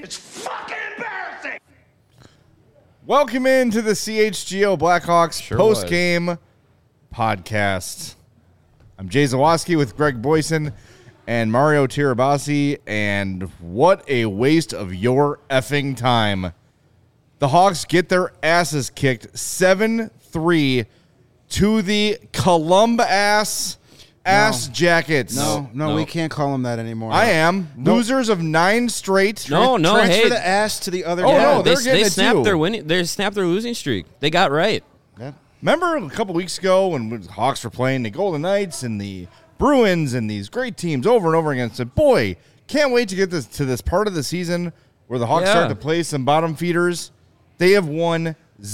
It's fucking embarrassing. Welcome into the CHGO Blackhawks Sure post-game podcast. I'm Jay Zawoski with Greg Boyson and Mario Tirabassi, and what a waste of your effing time. The Hawks get their asses kicked 7-3 to the Columbus Ass Jackets. No, we can't call them that anymore. I am. Losers of 9 straight. Transfer hey. the ass to the other Oh, guy. no, they're getting They it snapped too. their winning. They snapped their losing streak. They got right. Yeah. Remember a couple weeks ago when the Hawks were playing the Golden Knights and the Bruins and these great teams over and over again? And said, boy, can't wait to get this part of the season where the Hawks start to play some bottom feeders. They have won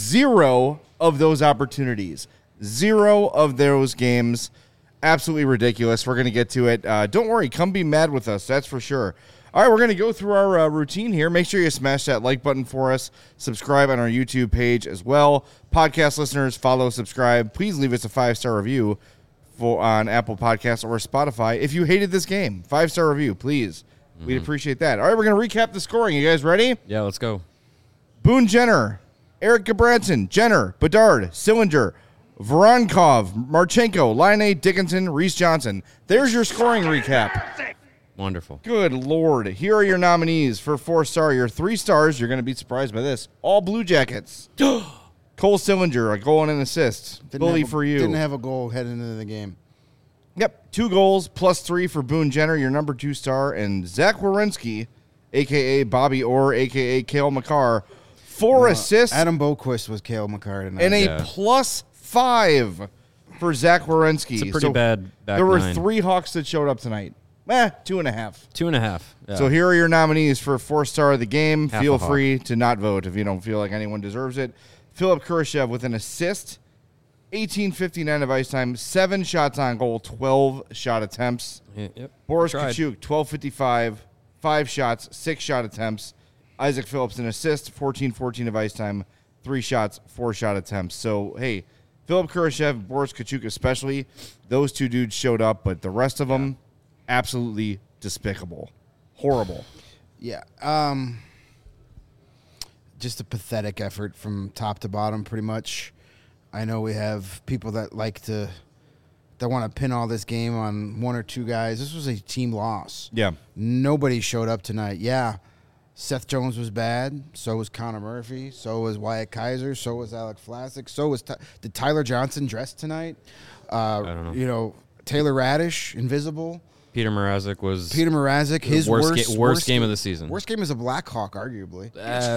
0 of those opportunities. 0 of those games. Absolutely ridiculous. We're going to get to it. Don't worry. Come be mad with us. That's for sure. All right, we're going to go through our routine here. Make sure you smash that like button for us. Subscribe on our YouTube page as well. Podcast listeners, follow, subscribe. Please leave us a 5-star review on Apple Podcasts or Spotify. If you hated this game, 5-star review, please. We'd appreciate that. All right, we're going to recap the scoring. You guys ready? Yeah, let's go. Boone Jenner, Eric Gabranson, Jenner, Bedard, Sillinger, Voronkov, Marchenko, Laine, Dickinson, Reese Johnson. There's your scoring recap. Wonderful. Good Lord. Here are your nominees for 4-star. Your 3 stars, you're going to be surprised by this. All Blue Jackets. Cole Sillinger, a goal and an assist. Bully for you. Didn't have a goal heading into the game. Yep, 2 goals plus 3 for Boone Jenner, your number 2 star. And Zach Werenski, a.k.a. Bobby Orr, a.k.a. Cale Makar, 4 assists. Adam Boquist was Cale Makar tonight. And a plus 5 for Zach Werenski. It's a pretty bad back There were nine. 3 Hawks that showed up tonight. 2.5. 2.5. Yeah. So here are your nominees for 4-star of the game. Half Feel a Hawk. free to not vote if you don't feel like anyone deserves it. Philip Kurashev with an assist, 18:59 of ice time, 7 shots on goal, 12 shot attempts. Yep. Boris Tried. Kachuk, 12:55, 5 shots, 6 shot attempts. Isaac Phillips an assist, 14:14 of ice time, 3 shots, 4 shot attempts. So hey, Philip Kurashev, Boris Kachuk especially, those 2 dudes showed up, but the rest of them, absolutely despicable, horrible. Yeah. Just a pathetic effort from top to bottom, pretty much. I know we have people that that want to pin all this game on 1 or 2 guys. This was a team loss. Yeah. Nobody showed up tonight. Yeah, Seth Jones was bad. So was Connor Murphy. So was Wyatt Kaiser. So was Alec Vlasic. So was did Tyler Johnson dress tonight? I don't know. You know, Taylor Radish, invisible. Peter Mrazek was Peter Mrazek, his worst game of the season. Worst game as a Blackhawk, arguably.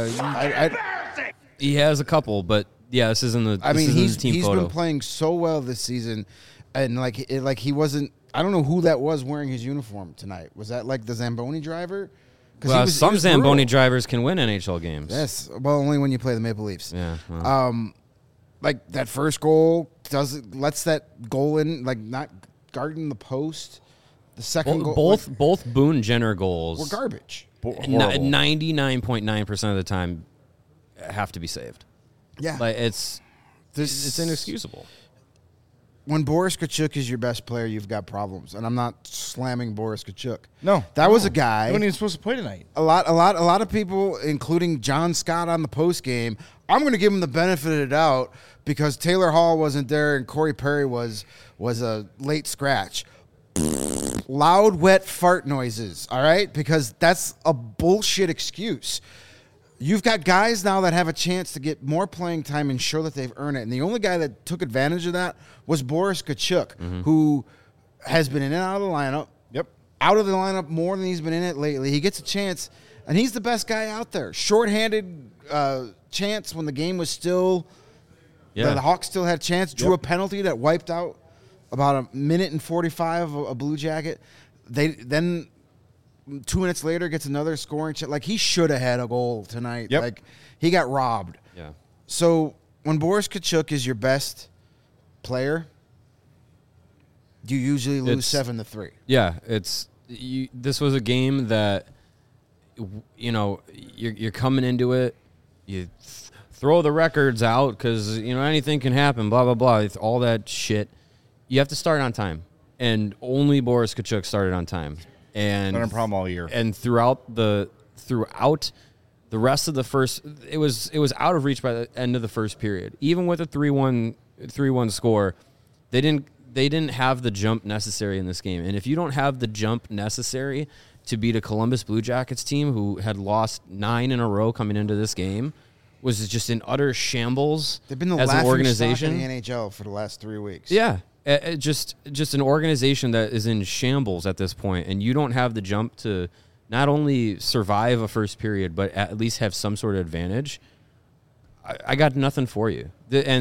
He has a couple, but yeah, this isn't the. I mean, this isn't he's the team photo. been playing so well this season, and like he wasn't. I don't know who that was wearing his uniform tonight. Was that like the Zamboni driver? Well, some he was Zamboni brutal. drivers can win NHL games. Yes, well, only when you play the Maple Leafs. Yeah. Well. Like that first goal lets that goal in, like not guarding the post. The second goal, both Boone Jenner goals were garbage. 99.9% of the time have to be saved. Yeah, Like it's inexcusable. When Boris Kachuk is your best player, you've got problems. And I'm not slamming Boris Kachuk. No. That was a guy. He wasn't even supposed to play tonight. A lot of people, including John Scott on the post game, I'm going to give him the benefit of the doubt because Taylor Hall wasn't there and Corey Perry was a late scratch. Loud, wet fart noises, all right? Because that's a bullshit excuse. You've got guys now that have a chance to get more playing time and show that they've earned it. And the only guy that took advantage of that was Boris Kachuk, who has been in and out of the lineup. Yep. Out of the lineup more than he's been in it lately. He gets a chance, and he's the best guy out there. Shorthanded chance when the game was still Yeah. the Hawks still had a chance. Drew a penalty that wiped out about a minute and 45 of a Blue Jacket. Then 2 minutes later gets another scoring chance. Like, he should have had a goal tonight. Yep. Like, he got robbed. Yeah. So when Boris Kachuk is your best player, you usually lose 7-3. Yeah, this was a game that you're coming into it. You throw the records out because anything can happen. Blah blah blah. It's all that shit. You have to start on time, and only Boris Kachuk started on time. And Been a problem all year. And throughout The rest of the first, it was out of reach by the end of the first period. Even with a 3-1 score, they didn't have the jump necessary in this game. And if you don't have the jump necessary to beat a Columbus Blue Jackets team who had lost 9 in a row coming into this game, was just in utter shambles. They've been the as an laughing organization stock in the NHL for the last 3 weeks. Yeah, just an organization that is in shambles at this point, and you don't have the jump to not only survive a first period, but at least have some sort of advantage. I got nothing for you.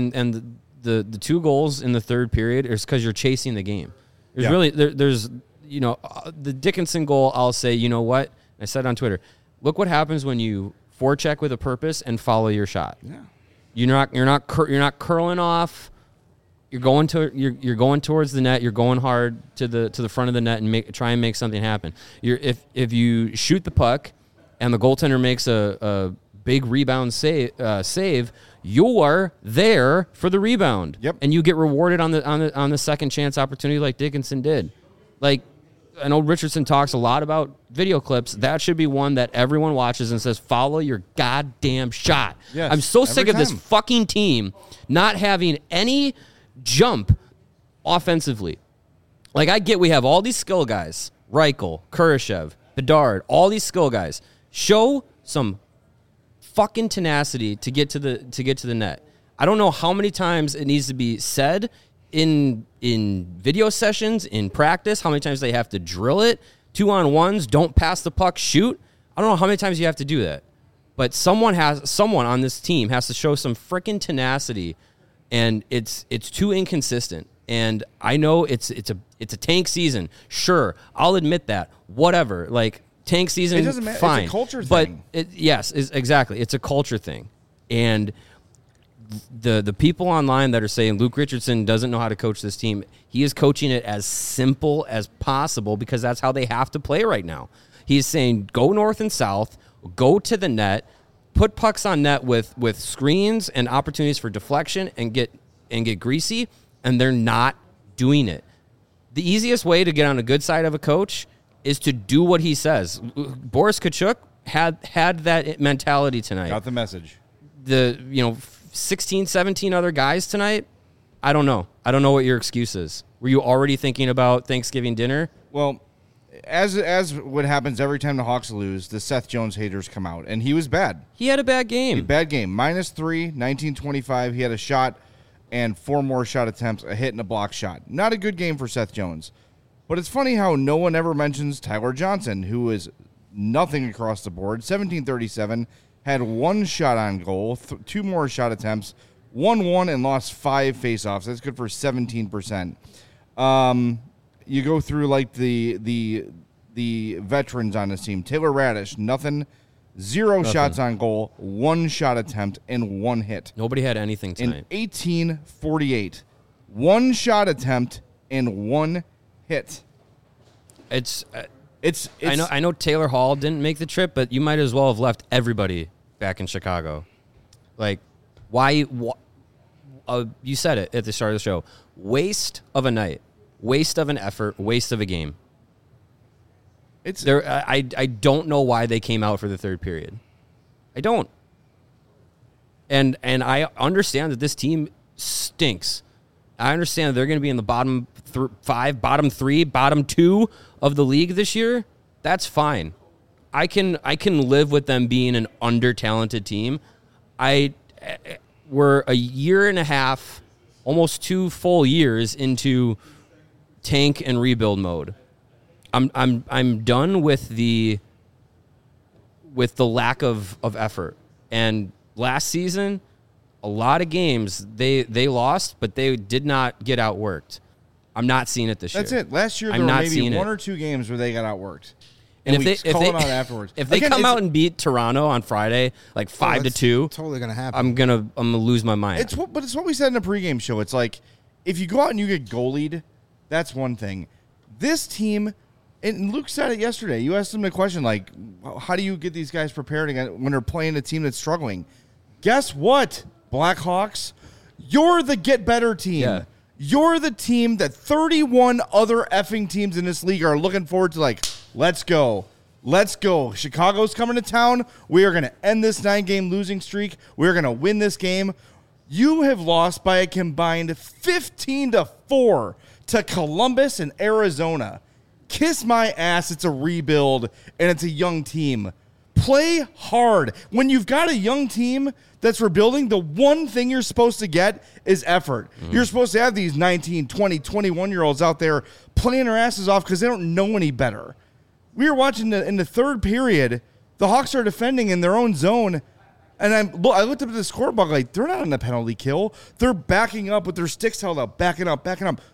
The 2 goals in the third period is because you're chasing the game. There's the Dickinson goal. I'll say, you know what? I said on Twitter, look what happens when you forecheck with a purpose and follow your shot. Yeah, you're not curling off. You're going towards the net. You're going hard to the front of the net and try and make something happen. If you shoot the puck and the goaltender makes a big rebound save, you are there for the rebound. Yep. And you get rewarded on the second chance opportunity like Dickinson did. Like, I know Richardson talks a lot about video clips. That should be one that everyone watches and says, follow your goddamn shot. Yes, I'm so sick of this time. fucking team not having any jump offensively. Like, I get we have all these skill guys, Reichel, Kurashev, Bedard, all these skill guys. Show some fucking tenacity to get to the net. I don't know how many times it needs to be said in video sessions, in practice, how many times they have to drill it. 2-on-1s, don't pass the puck, shoot. I don't know how many times you have to do that. But someone on this team has to show some freaking tenacity, and it's too inconsistent. And I know it's a tank season. Sure, I'll admit that. Whatever. Like, tank season, It doesn't matter. fine. It's a culture thing. But exactly. It's a culture thing. And the people online that are saying Luke Richardson doesn't know how to coach this team, he is coaching it as simple as possible because that's how they have to play right now. He's saying go north and south, go to the net, put pucks on net with screens and opportunities for deflection and get greasy, and they're not doing it. The easiest way to get on a good side of a coach is to do what he says. Boris Tkachuk had that mentality tonight. Got the message. 16, 17 other guys tonight, I don't know. I don't know what your excuse is. Were you already thinking about Thanksgiving dinner? Well, as what happens every time the Hawks lose, the Seth Jones haters come out, and he was bad. He had a bad game. Bad game. -3, 19-25. He had a shot and 4 more shot attempts, a hit and a block shot. Not a good game for Seth Jones. But it's funny how no one ever mentions Tyler Johnson, who is nothing across the board. 17-37, had 1 shot on goal, 2 more shot attempts, 1-1 and lost 5 faceoffs. That's good for 17%. You go through like the veterans on this team. Taylor Radish, nothing. 0 shots on goal, 1 shot attempt, and 1 hit. Nobody had anything tonight. In 18-48, 1 shot attempt and 1 hit. It's I I know Taylor Hall didn't make the trip, but you might as well have left everybody back in Chicago. Like, why you said it at the start of the show. Waste of a night. Waste of an effort. Waste of a game. I don't know why they came out for the third period. I don't. And I understand that this team stinks. I understand that they're going to be in the bottom 5, bottom 3, bottom 2 of the league this year. That's fine. I can live with them being an under-talented team. We're a year and a half, almost 2 full years into tank and rebuild mode. I'm done with the lack of effort. And last season, a lot of games they lost, but they did not get outworked. I'm not seeing it this year. That's it. Last year there were maybe 1 or 2 games where they got outworked. And if they out afterwards, if they come out and beat Toronto on Friday, like 5-2, totally gonna happen. I'm gonna lose my mind. It's what we said in the pregame show. It's like if you go out and you get goalied, that's one thing. This team, and Luke said it yesterday. You asked him the question like, how do you get these guys prepared when they're playing a team that's struggling? Guess what, Blackhawks? You're the get better team. Yeah. You're the team that 31 other effing teams in this league are looking forward to. Like, let's go. Let's go. Chicago's coming to town. We are going to end this 9-game losing streak. We're going to win this game. You have lost by a combined 15-4 to Columbus and Arizona. Kiss my ass. It's a rebuild, and it's a young team. Play hard. When you've got a young team that's rebuilding, the one thing you're supposed to get is effort. You're supposed to have these 19, 20, 21-year-olds out there playing their asses off because they don't know any better. We were watching in the third period, the Hawks are defending in their own zone, and I looked up at the scoreboard like, they're not on the penalty kill. They're backing up with their sticks held up, backing up.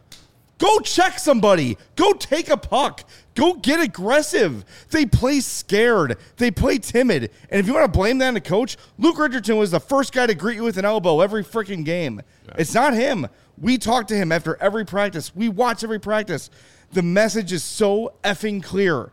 Go check somebody. Go take a puck. Go get aggressive. They play scared. They play timid. And if you want to blame that on the coach, Luke Richardson was the first guy to greet you with an elbow every freaking game. Right. It's not him. We talk to him after every practice. We watch every practice. The message is so effing clear.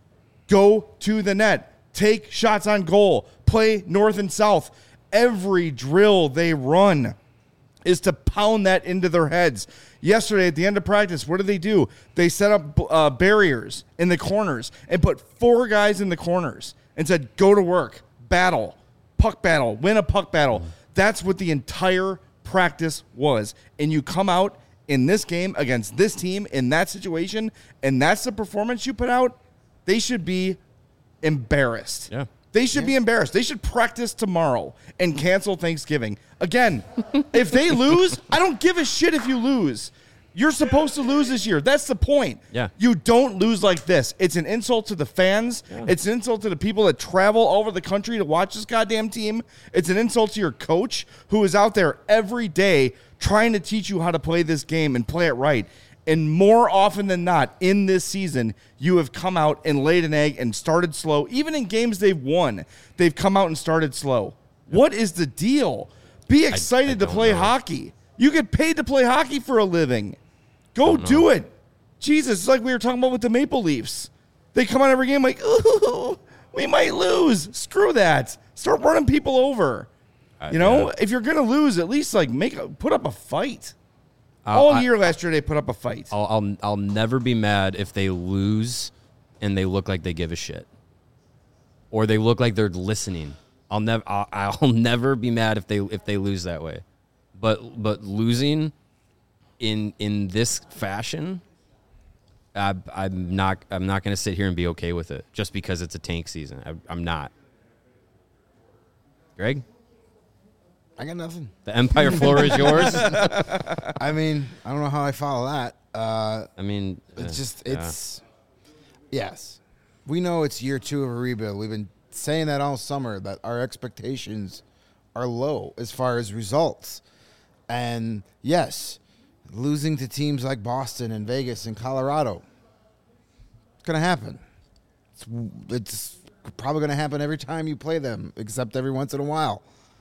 Go to the net. Take shots on goal. Play north and south. Every drill they run is to pound that into their heads. Yesterday, at the end of practice, what did they do? They set up barriers in the corners and put 4 guys in the corners and said, go to work, battle, puck battle, win a puck battle. That's what the entire practice was. And you come out in this game against this team in that situation, and that's the performance you put out, they should be embarrassed. Yeah. They should be embarrassed. They should practice tomorrow and cancel Thanksgiving. Again, if they lose, I don't give a shit if you lose. You're supposed to lose this year. That's the point. Yeah. You don't lose like this. It's an insult to the fans. Yeah. It's an insult to the people that travel all over the country to watch this goddamn team. It's an insult to your coach who is out there every day trying to teach you how to play this game and play it right. And more often than not, in this season, you have come out and laid an egg and started slow. Even in games they've won, they've come out and started slow. What is the deal? Be excited to play hockey. You get paid to play hockey for a living. Go do it. Jesus, it's like we were talking about with the Maple Leafs. They come out every game like, ooh, we might lose. Screw that. Start running people over. If you're going to lose, at least like put up a fight. All year last year, they put up a fight. I'll never be mad if they lose and they look like they give a shit, or they look like they're listening. I'll never be mad if they lose that way, but losing in this fashion, I'm not going to sit here and be okay with it just because it's a tank season. I'm not. Greg? I got nothing. The Empire floor is yours. I mean, I don't know how I follow that. Yes. We know it's year 2 of a rebuild. We've been saying that all summer, that our expectations are low as far as results. And yes, losing to teams like Boston and Vegas and Colorado, it's going to happen. It's probably going to happen every time you play them, except every once in a while.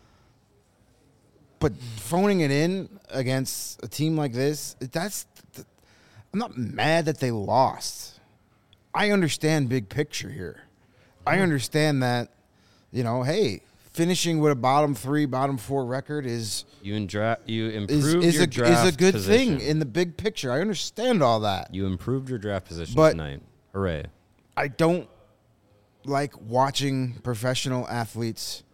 But phoning it in against a team like this, I'm not mad that they lost. I understand big picture here. I understand that, hey, finishing with a bottom 3, bottom 4 record is you improved your draft is a good position. thing in the big picture. I understand all that. You improved your draft position tonight. Hooray. I don't like watching professional athletes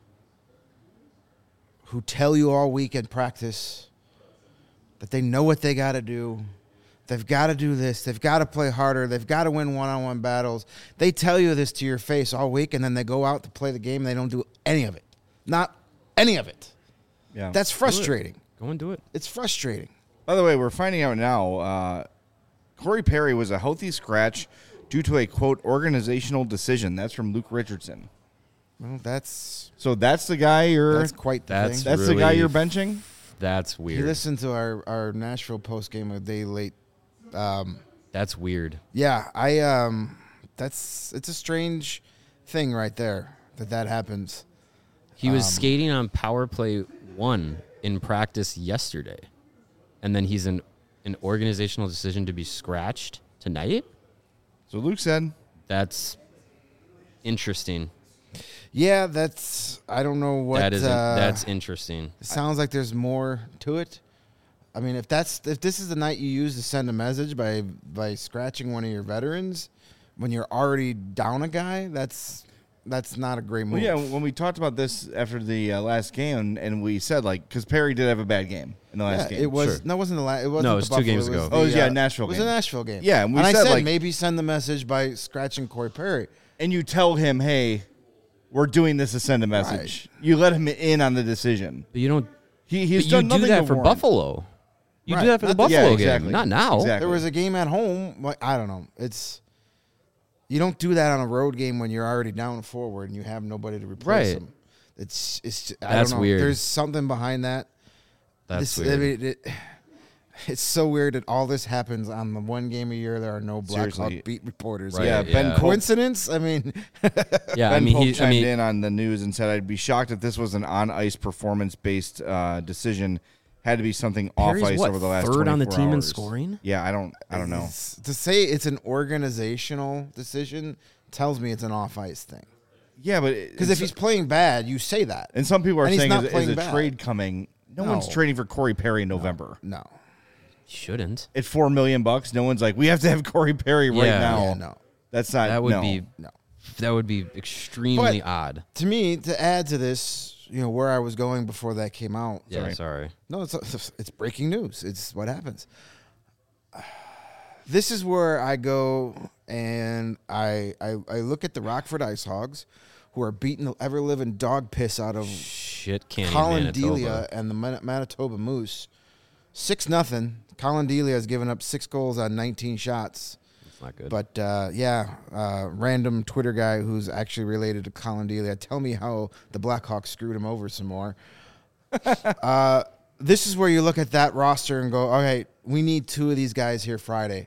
who tell you all week in practice that they know what they got to do. They've got to do this. They've got to play harder. They've got to win one-on-one battles. They tell you this to your face all week, and then they go out to play the game, and they don't do any of it. Not any of it. Yeah. That's frustrating. Go and do it. It's frustrating. By the way, we're finding out now Corey Perry was a healthy scratch due to a, quote, organizational decision. That's from Luke Richardson. Well, that's the guy that's quite the thing. That's the guy you're benching? That's weird. He listened to our Nashville post game a day late. That's weird. Yeah, it's a strange thing right there that happens. He was skating on power play 1 in practice yesterday, and then he's an organizational decision to be scratched tonight. So Luke said. That's interesting. Yeah, I don't know what. That's interesting. It sounds like there's more to it. I mean, if this is the night you use to send a message by scratching one of your veterans, when you're already down a guy, that's not a great move. Well, yeah, when we talked about this after the last game, and we said, like, because Perry did have a bad game in the last game. It was Sure. No, it wasn't the last. It wasn't No, it the was 2 Buffalo, games it was ago. the, Oh, yeah, Nashville It was game. a Nashville game. Yeah, and we I said, said like- maybe send the message by scratching Corey Perry. And you tell him, hey, we're doing this to send a message. You let him in on the decision. But you don't. He's But done you do nothing that to for warrant. Buffalo. You Right. do that for the Not the- Buffalo yeah, exactly. game, not now. Exactly. There was a game at home. Like, I don't know. You don't do that on a road game when you're already down forward and you have nobody to replace Right. him. It's I That's don't know. weird. There's something behind that. That's I weird. mean, it's so weird that all this happens on the one game a year. There are no Blackhawk Seriously. beat reporters. Right, Yeah, Ben yeah. Pope, Coincidence? I mean, Yeah, Ben Pope I chimed mean, in on the news and said, I'd be shocked if this was an on-ice performance-based decision. Had to be something Perry's off-ice what, over the last third on the 24 team in hours. scoring? Yeah, I don't know. to say it's an organizational decision tells me it's an off-ice thing. Yeah, but Because if he's playing bad, you say that. and some people are and he's saying not is playing a bad. trade coming. No one's No. trading for Corey Perry in November. No. shouldn't. At $4 million, no one's like, we have to have Corey Perry right Yeah. now. Yeah, no. That's not. That would no. be No. that would be extremely But- odd. To me, to add to this, where I was going before that came out. Yeah, sorry. No, it's breaking news. It's what happens. This is where I go and I look at the Rockford Ice Hogs, who are beating the ever living dog piss out of Shit, can't Colin Manitoba. Delia and the Manitoba Moose. 6-0. Colin Delia has given up 6 goals on 19 shots. It's not good. But random Twitter guy who's actually related to Colin Delia, tell me how the Blackhawks screwed him over some more. This is where you look at that roster and go, okay, we need 2 of these guys here Friday.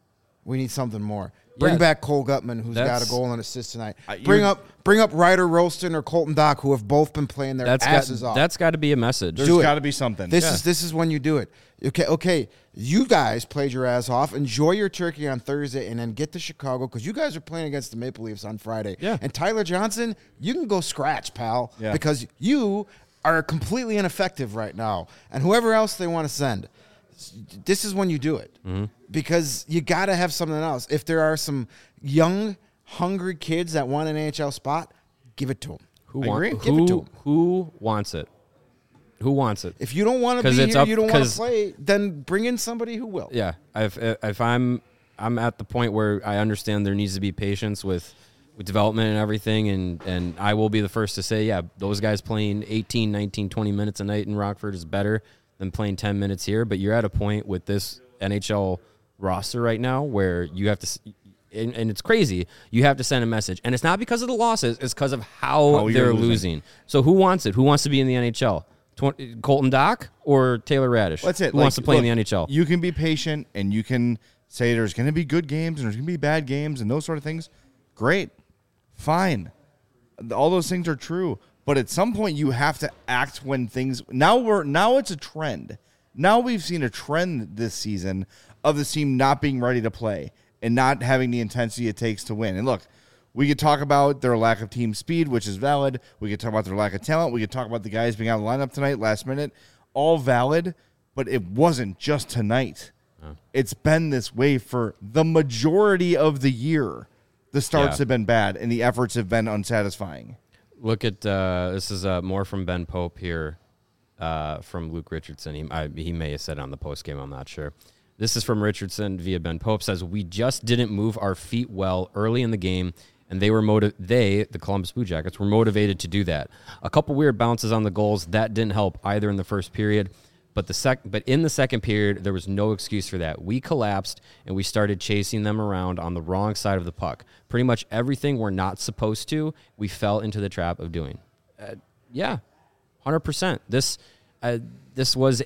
We need something more. Bring Yeah. back Cole Gutman, who's got That's- a goal and assist tonight. you're- Bring up Ryder Rolston or Colton Dock, who have both been playing their asses off. That's got to be a message. There's Do it. got to be something. This is when you do it. Okay. You guys played your ass off. Enjoy your turkey on Thursday, and then get to Chicago because you guys are playing against the Maple Leafs on Friday. Yeah. And Tyler Johnson, you can go scratch, pal, Yeah. because you are completely ineffective right now. And whoever else they want to send, this is when you do it because you got to have something else. If there are some young, hungry kids that want an NHL spot, give it to them. Who I agree. Give it to 'em. Who wants it? Who wants it? If you don't want to 'Cause be it's here, up- you don't want to 'cause- play, then bring in somebody who will. Yeah, if I'm at the point where I understand there needs to be patience with development and everything, and I will be the first to say, yeah, those guys playing 18, 19, 20 minutes a night in Rockford is better than playing 10 minutes here. But you're at a point with this NHL roster right now where you have to, and it's crazy, you have to send a message. And it's not because of the losses, it's because of how you're they're losing. losing. So who wants it? Who wants to be in the NHL? Colton Dock or Taylor Radish? That's it. Who wants to play in the NHL? You can be patient and you can say there's going to be good games and there's going to be bad games and those sort of things. Great. Fine. All those things are true. But at some point you have to act when things now it's a trend. Now we've seen a trend this season of the team not being ready to play and not having the intensity it takes to win. And look, we could talk about their lack of team speed, which is valid. We could talk about their lack of talent. We could talk about the guys being out of the lineup tonight, last minute. All valid, but it wasn't just tonight. It's been this way for the majority of the year. The starts Yeah. have been bad, and the efforts have been unsatisfying. Look at this is more from Ben Pope here, from Luke Richardson. He may have said it on the post game. I'm not sure. This is from Richardson via Ben Pope. Says we just didn't move our feet well early in the game, and they were the Columbus Blue Jackets were motivated to do that. A couple weird bounces on the goals that didn't help either in the first period. But in the second period, there was no excuse for that. We collapsed, and we started chasing them around on the wrong side of the puck. Pretty much everything we're not supposed to, we fell into the trap of doing. Yeah, 100%. This was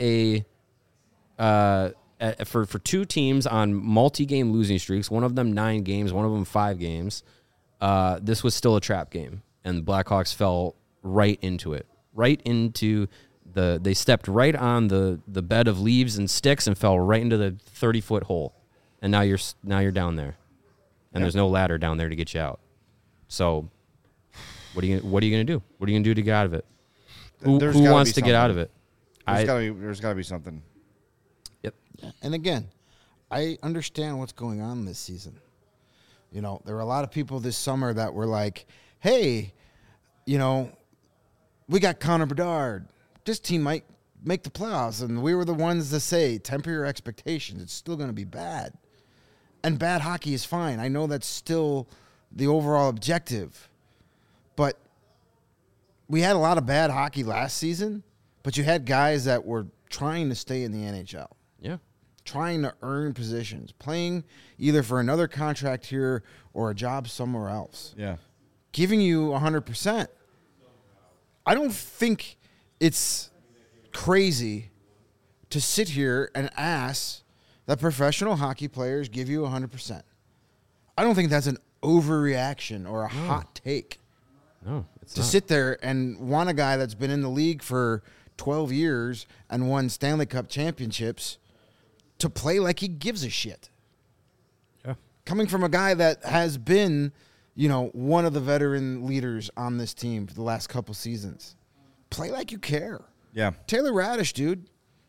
for 2 teams on multi-game losing streaks, one of them 9 games, one of them 5 games. This was still a trap game, and the Blackhawks fell right into it. They stepped right on the bed of leaves and sticks and fell right into the 30-foot hole, and now you're down there, and there's no ladder down there to get you out. So, what are you gonna do? What are you gonna do to get out of it? Who There's gotta wants be to get out of something. it? There's got to be something. Yep. And again, I understand what's going on this season. You know, there were a lot of people this summer that were like, hey, you know, we got Connor Bedard. This team might make the playoffs. And we were the ones to say, temper your expectations. It's still going to be bad. And bad hockey is fine. I know that's still the overall objective. But we had a lot of bad hockey last season, but you had guys that were trying to stay in the NHL. Yeah. Trying to earn positions, playing either for another contract here or a job somewhere else. Yeah. Giving you 100%. I don't think it's crazy to sit here and ask that professional hockey players give you 100%. I don't think that's an overreaction or a hot take. No, it's to not. sit there and want a guy that's been in the league for 12 years and won Stanley Cup championships to play like he gives a shit. Yeah. Coming from a guy that has been, you know, one of the veteran leaders on this team for the last couple seasons. Play like you care. Yeah. Taylor Radish, dude.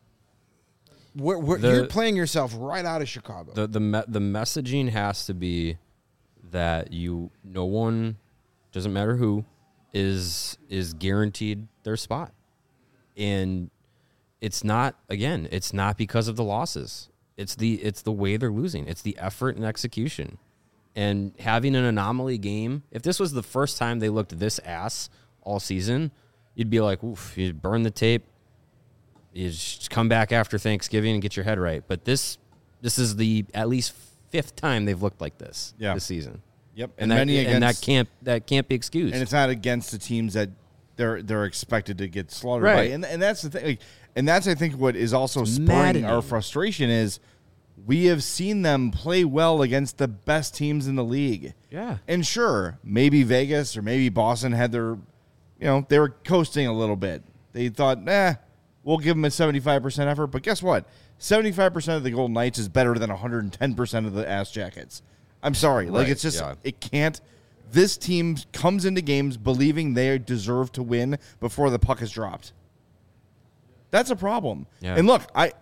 You're playing yourself right out of Chicago. The messaging has to be that no one, doesn't matter who, is guaranteed their spot. And it's not because of the losses. It's the way they're losing. It's the effort and execution. And having an anomaly game, if this was the first time they looked this ass all season, you'd be like, oof, you burn the tape. You just come back after Thanksgiving and get your head right. But this is the at least fifth time they've looked like this this season. Yep. And that can't be excused. And it's not against the teams that they're expected to get slaughtered Right. by. And that's the thing. Like, and that's, I think, what is also spurring maddening. our frustration is we have seen them play well against the best teams in the league. Yeah. And sure, maybe Vegas or maybe Boston had their, they were coasting a little bit. They thought, we'll give them a 75% effort. But guess what? 75% of the Golden Knights is better than 110% of the Ass Jackets. I'm sorry. Like, Right, it's just, yeah. it can't. This team comes into games believing they deserve to win before the puck is dropped. That's a problem. Yeah. And look,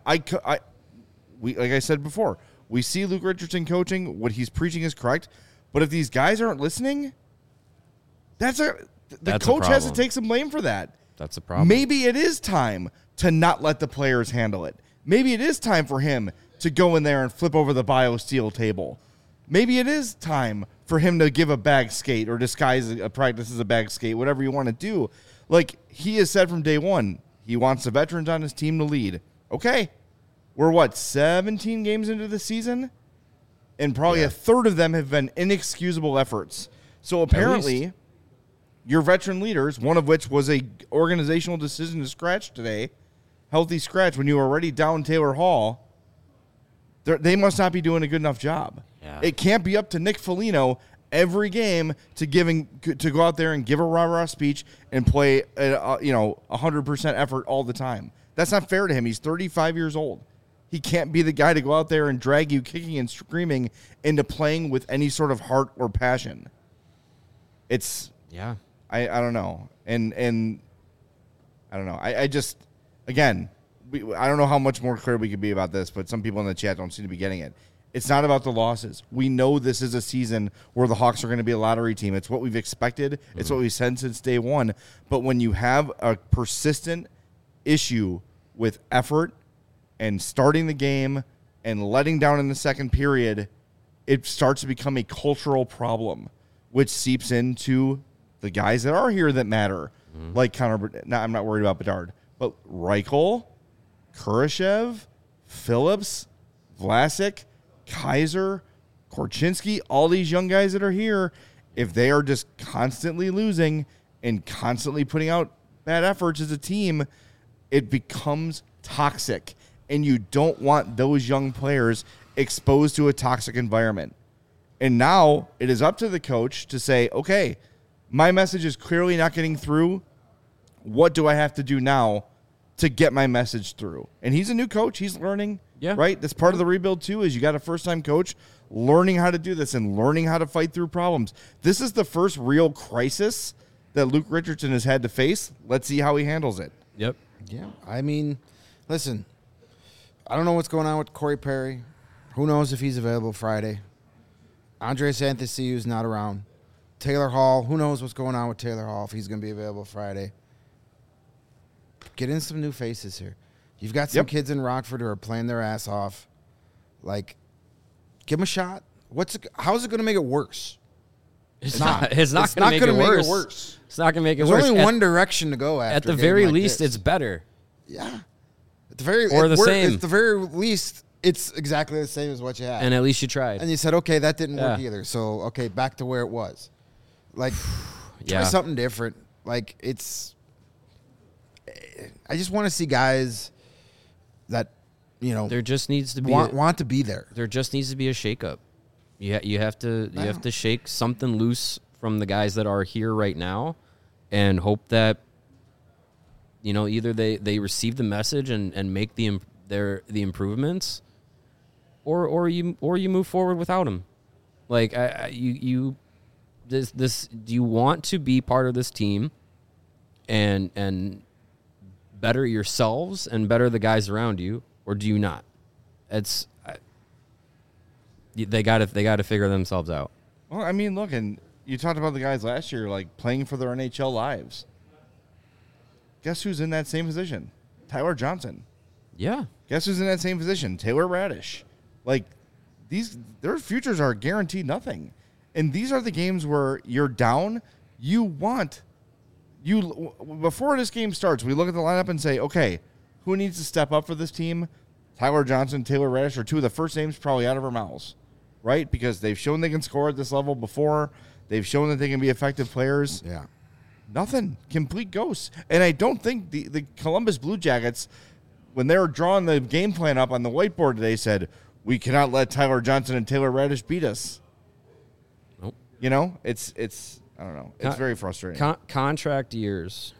we like I said before, we see Luke Richardson coaching. What he's preaching is correct. But if these guys aren't listening, the coach has to problem. take some blame for that. That's a problem. Maybe it is time to not let the players handle it. Maybe it is time for him to go in there and flip over the BioSteel table. Maybe it is time for him to give a bag skate or disguise a practice as a bag skate, whatever you want to do. Like, he has said from day one, he wants the veterans on his team to lead. Okay. We're, 17 games into the season? And probably a third of them have been inexcusable efforts. So apparently, your veteran leaders, one of which was a organizational decision to scratch today, healthy scratch, when you were already down Taylor Hall, they must not be doing a good enough job. Yeah. It can't be up to Nick Foligno every game to go out there and give a rah-rah speech and play 100% effort all the time. That's not fair to him. He's 35 years old. He can't be the guy to go out there and drag you kicking and screaming into playing with any sort of heart or passion. It's I don't know. And I don't know. I just, again, I don't know how much more clear we could be about this, but some people in the chat don't seem to be getting it. It's not about the losses. We know this is a season where the Hawks are going to be a lottery team. It's what we've expected. Mm-hmm. It's what we've said since day one. But when you have a persistent issue with effort and starting the game and letting down in the second period, it starts to become a cultural problem, which seeps into the guys that are here that matter. Mm-hmm. Like I'm not worried about Bedard, but Reichel, Kurashev, Phillips, Vlasic, Kaiser, Korchinski, all these young guys that are here, if they are just constantly losing and constantly putting out bad efforts as a team, it becomes toxic. And you don't want those young players exposed to a toxic environment. And now it is up to the coach to say, okay, my message is clearly not getting through. What do I have to do now to get my message through? And he's a new coach. He's learning. Yeah. Right? That's part of the rebuild, too, is you got a first-time coach learning how to do this and learning how to fight through problems. This is the first real crisis that Luke Richardson has had to face. Let's see how he handles it. Yep. Yeah. I mean, listen, I don't know what's going on with Corey Perry. Who knows if he's available Friday. Andres Anthony's not around. Taylor Hall, who knows what's going on with Taylor Hall, if he's going to be available Friday. Get in some new faces here. You've got some kids in Rockford who are playing their ass off. Like, give them a shot. How's it going to make it worse? It's not going to make it worse. It's not going to make it worse. There's only one direction to go after. At the very least, it's better. Yeah. At the very least, it's exactly the same as what you had. And at least you tried. And you said, okay, that didn't work either. So, okay, back to where it was. Like, try something different. Like, I just want to see guys that, there just needs to be want to be there. There just needs to be a shakeup. You have to shake something loose from the guys that are here right now, and hope that either they receive the message and make the improvements, or you move forward without them. Like do you want to be part of this team and better yourselves and better the guys around you, or do you not? They got to figure themselves out. Well, I mean, look, and you talked about the guys last year, like playing for their NHL lives. Guess who's in that same position? Tyler Johnson. Yeah. Guess who's in that same position? Taylor Radish. Like, their futures are guaranteed nothing. And these are the games where you're down. Before this game starts, we look at the lineup and say, okay, who needs to step up for this team? Tyler Johnson, Taylor Radish are two of the first names probably out of our mouths, right? Because they've shown they can score at this level before. They've shown that they can be effective players. Yeah. Nothing. Complete ghosts. And I don't think the Columbus Blue Jackets, when they were drawing the game plan up on the whiteboard today, said, we cannot let Tyler Johnson and Taylor Radish beat us. Nope. It's I don't know. It's very frustrating. Contract years.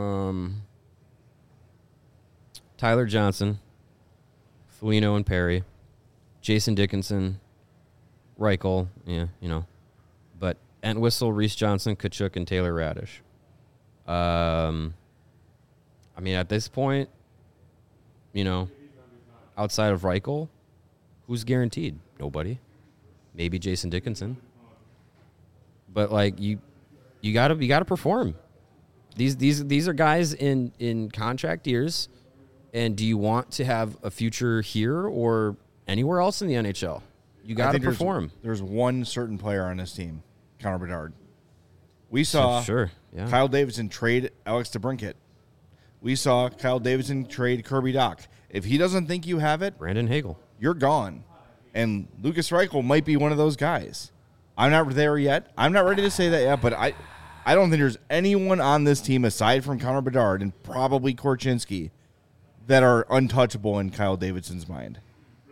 Tyler Johnson, Foligno and Perry, Jason Dickinson, Reichel, but Entwistle, Reese Johnson, Kachuk, and Taylor Radish. I mean, at this point, outside of Reichel, who's guaranteed? Nobody. Maybe Jason Dickinson. But like you gotta perform. These are guys in contract years. And do you want to have a future here or anywhere else in the NHL? You got to perform. There's one certain player on this team, Connor Bedard. We saw Kyle Davidson trade Alex DeBrincat. We saw Kyle Davidson trade Kirby Dach. If he doesn't think you have it, Brandon Hagel, you're gone. And Lucas Reichel might be one of those guys. I'm not there yet. I'm not ready to say that yet, but I don't think there's anyone on this team aside from Connor Bedard and probably Korchinski that are untouchable in Kyle Davidson's mind.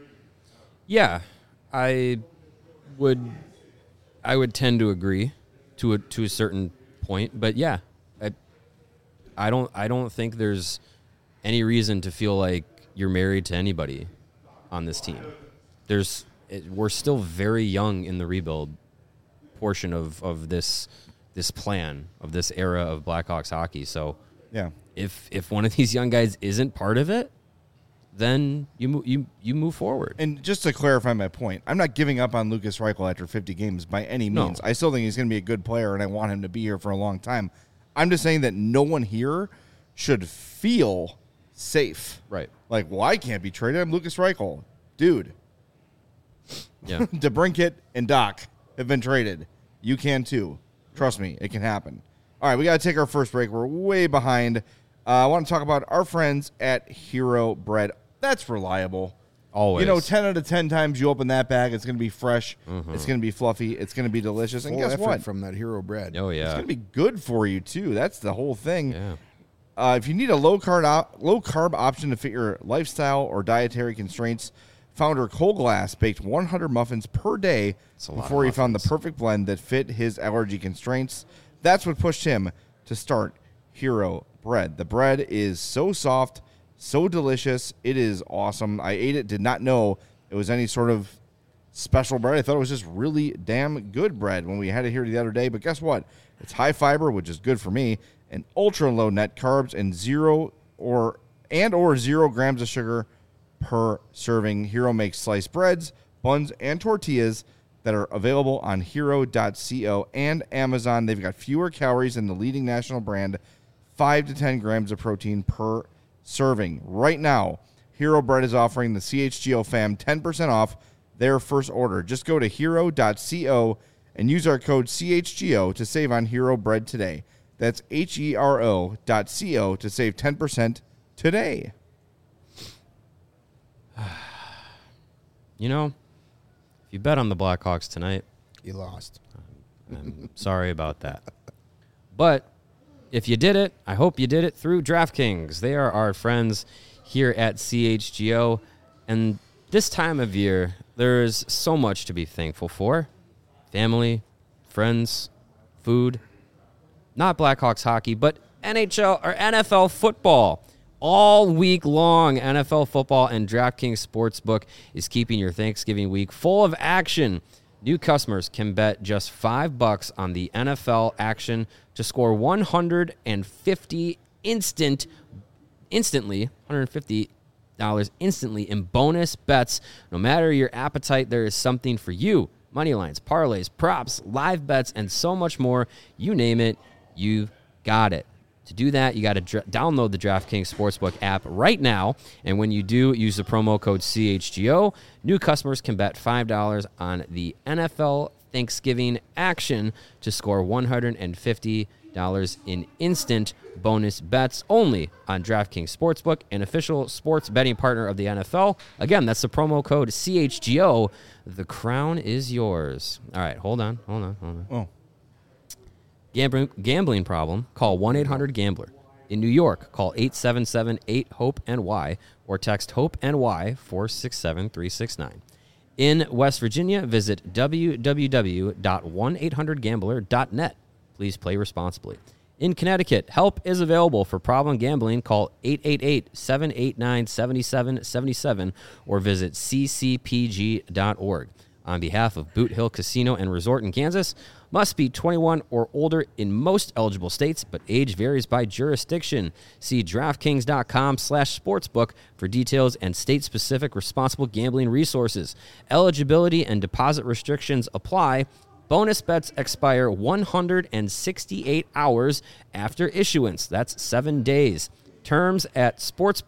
Yeah, I would tend to agree to a certain point, but yeah, I don't think there's any reason to feel like you're married to anybody on this team. We're still very young in the rebuild portion of this plan of this era of Blackhawks hockey. So yeah. If one of these young guys isn't part of it, then you move forward. And just to clarify my point, I'm not giving up on Lucas Reichel after 50 games by any means. No. I still think he's going to be a good player, and I want him to be here for a long time. I'm just saying that no one here should feel safe. Right. Like, well, I can't be traded. I'm Lucas Reichel. Dude. Yeah. DeBrincat and Dach have been traded. You can too. Trust me, it can happen. All right, we got to take our first break. We're way behind. I want to talk about our friends at Hero Bread. That's reliable. Always. 10 out of 10 times you open that bag, it's going to be fresh. Mm-hmm. It's going to be fluffy. It's going to be delicious. And guess what? From that Hero Bread. Oh, yeah. It's going to be good for you, too. That's the whole thing. Yeah. If you need a low-carb option to fit your lifestyle or dietary constraints, founder Cole Glass baked 100 muffins per day before he found the perfect blend that fit his allergy constraints. That's what pushed him to start Hero Bread. The bread is so soft, so delicious. It is awesome. I ate it, did not know it was any sort of special bread. I thought it was just really damn good bread when we had it here the other day. But guess what? It's high fiber, which is good for me, and ultra low net carbs and 0 grams of sugar per serving. Hero makes sliced breads, buns, and tortillas that are available on hero.co and Amazon. They've got fewer calories than the leading national brand, 5 to 10 grams of protein per serving. Right now, Hero Bread is offering the CHGO fam 10% off their first order. Just go to hero.co and use our code CHGO to save on Hero Bread today. That's HERO.co to save 10% today. You know, if you bet on the Blackhawks tonight, You lost. I'm sorry about that. But if you did it, I hope you did it through DraftKings. They are our friends here at CHGO. And this time of year, there's so much to be thankful for. Family, friends, food. Not Blackhawks hockey, but NHL or NFL football. All week long, NFL football and DraftKings Sportsbook is keeping your Thanksgiving week full of action. New customers can bet just $5 on the NFL action to score $150 instantly in bonus bets. No matter your appetite, there is something for you. Money lines, parlays, props, live bets, and so much more. You name it, you've got it. To do that, you got to download the DraftKings Sportsbook app right now. And when you do, use the promo code CHGO. New customers can bet $5 on the NFL Thanksgiving action to score $150 in instant bonus bets only on DraftKings Sportsbook, an official sports betting partner of the NFL. Again, that's the promo code CHGO. The crown is yours. All right, hold on. Oh. Gambling problem, call 1-800-GAMBLER. In New York, call 877-8-HOPE-NY or text HOPE-NY 467-369. In West Virginia, visit www.1800gambler.net. Please play responsibly. In Connecticut, help is available for problem gambling. Call 888-789-7777 or visit ccpg.org. On behalf of Boot Hill Casino and Resort in Kansas, must be 21 or older in most eligible states, but age varies by jurisdiction. See DraftKings.com/sportsbook for details and state-specific responsible gambling resources. Eligibility and deposit restrictions apply. Bonus bets expire 168 hours after issuance. That's 7 days. Terms at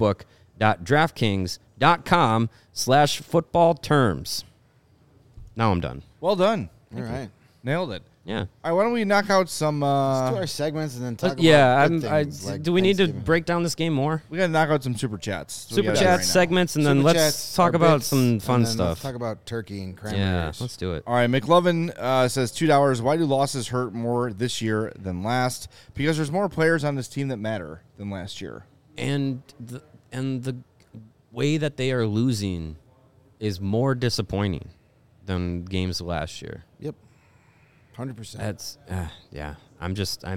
sportsbook.draftkings.com/football terms. Now I'm done. Well done. All right. Nailed it. Yeah. All right, why don't we knock out some... Let's do our segments and then talk about good things like do we need to Thanksgiving. break down this game more? we got to knock out some Super Chats. So we Super got that Chats, right now. segments, and then Super let's Chats, talk our about bits, some and fun then stuff. Let's talk about turkey and cranberries. Yeah, let's do it. All right, McLovin says $2. Why do losses hurt more this year than last? Because there's more players on this team that matter than last year. And the way that they are losing is more disappointing than games last year. Yep. 100%. That's yeah. I'm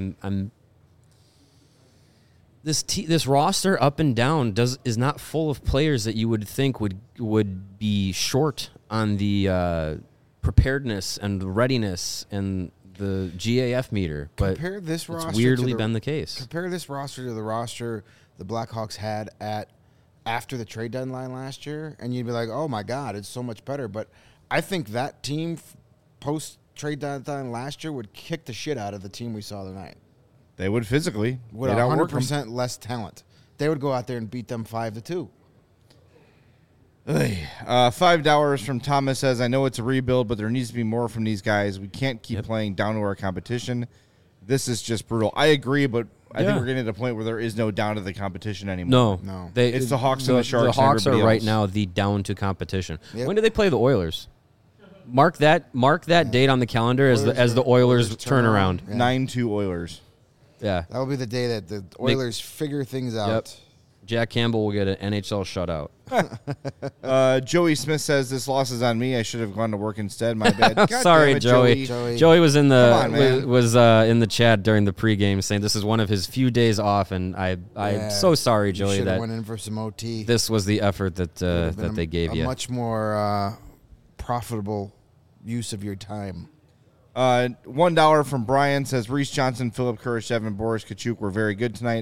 this roster up and down is not full of players that you would think would be short on the preparedness and the readiness and the GAF meter. But Compare this roster it's weirdly to been the case. Compare this roster to the roster the Blackhawks had after the trade deadline last year, and you'd be like, oh my God, it's so much better. But I think that team post-trade deadline last year would kick the shit out of the team we saw tonight. They would physically. With They'd outwork 100% less talent. They would go out there and beat them 5-2. $5 from Thomas says, I know it's a rebuild, but there needs to be more from these guys. We can't keep playing down to our competition. This is just brutal. I agree, but I think we're getting to the point where there is no down to the competition anymore. No. It's the Hawks and the Sharks The and Hawks are everybody right else. now the down to competition. Yep. When do they play the Oilers? Mark that date on the calendar as the Oilers turn around. Yeah. 9-2 Oilers. Yeah. That will be the day that the Oilers figure things out. Jack Campbell will get an NHL shutout. Joey Smith says, this loss is on me. I should have gone to work instead. My bad. God Sorry, damn it, Joey. Joey. Joey was in Come on, the man. was in the chat during the pregame saying this is one of his few days off, and I'm so sorry, You Joey, should have that went in for some OT. this was the effort that Would've been that they gave a you. much more profitable use of your time. $1 from Brian says, Reese Johnson, Philip Kurashev, and Boris Kachuk were very good tonight.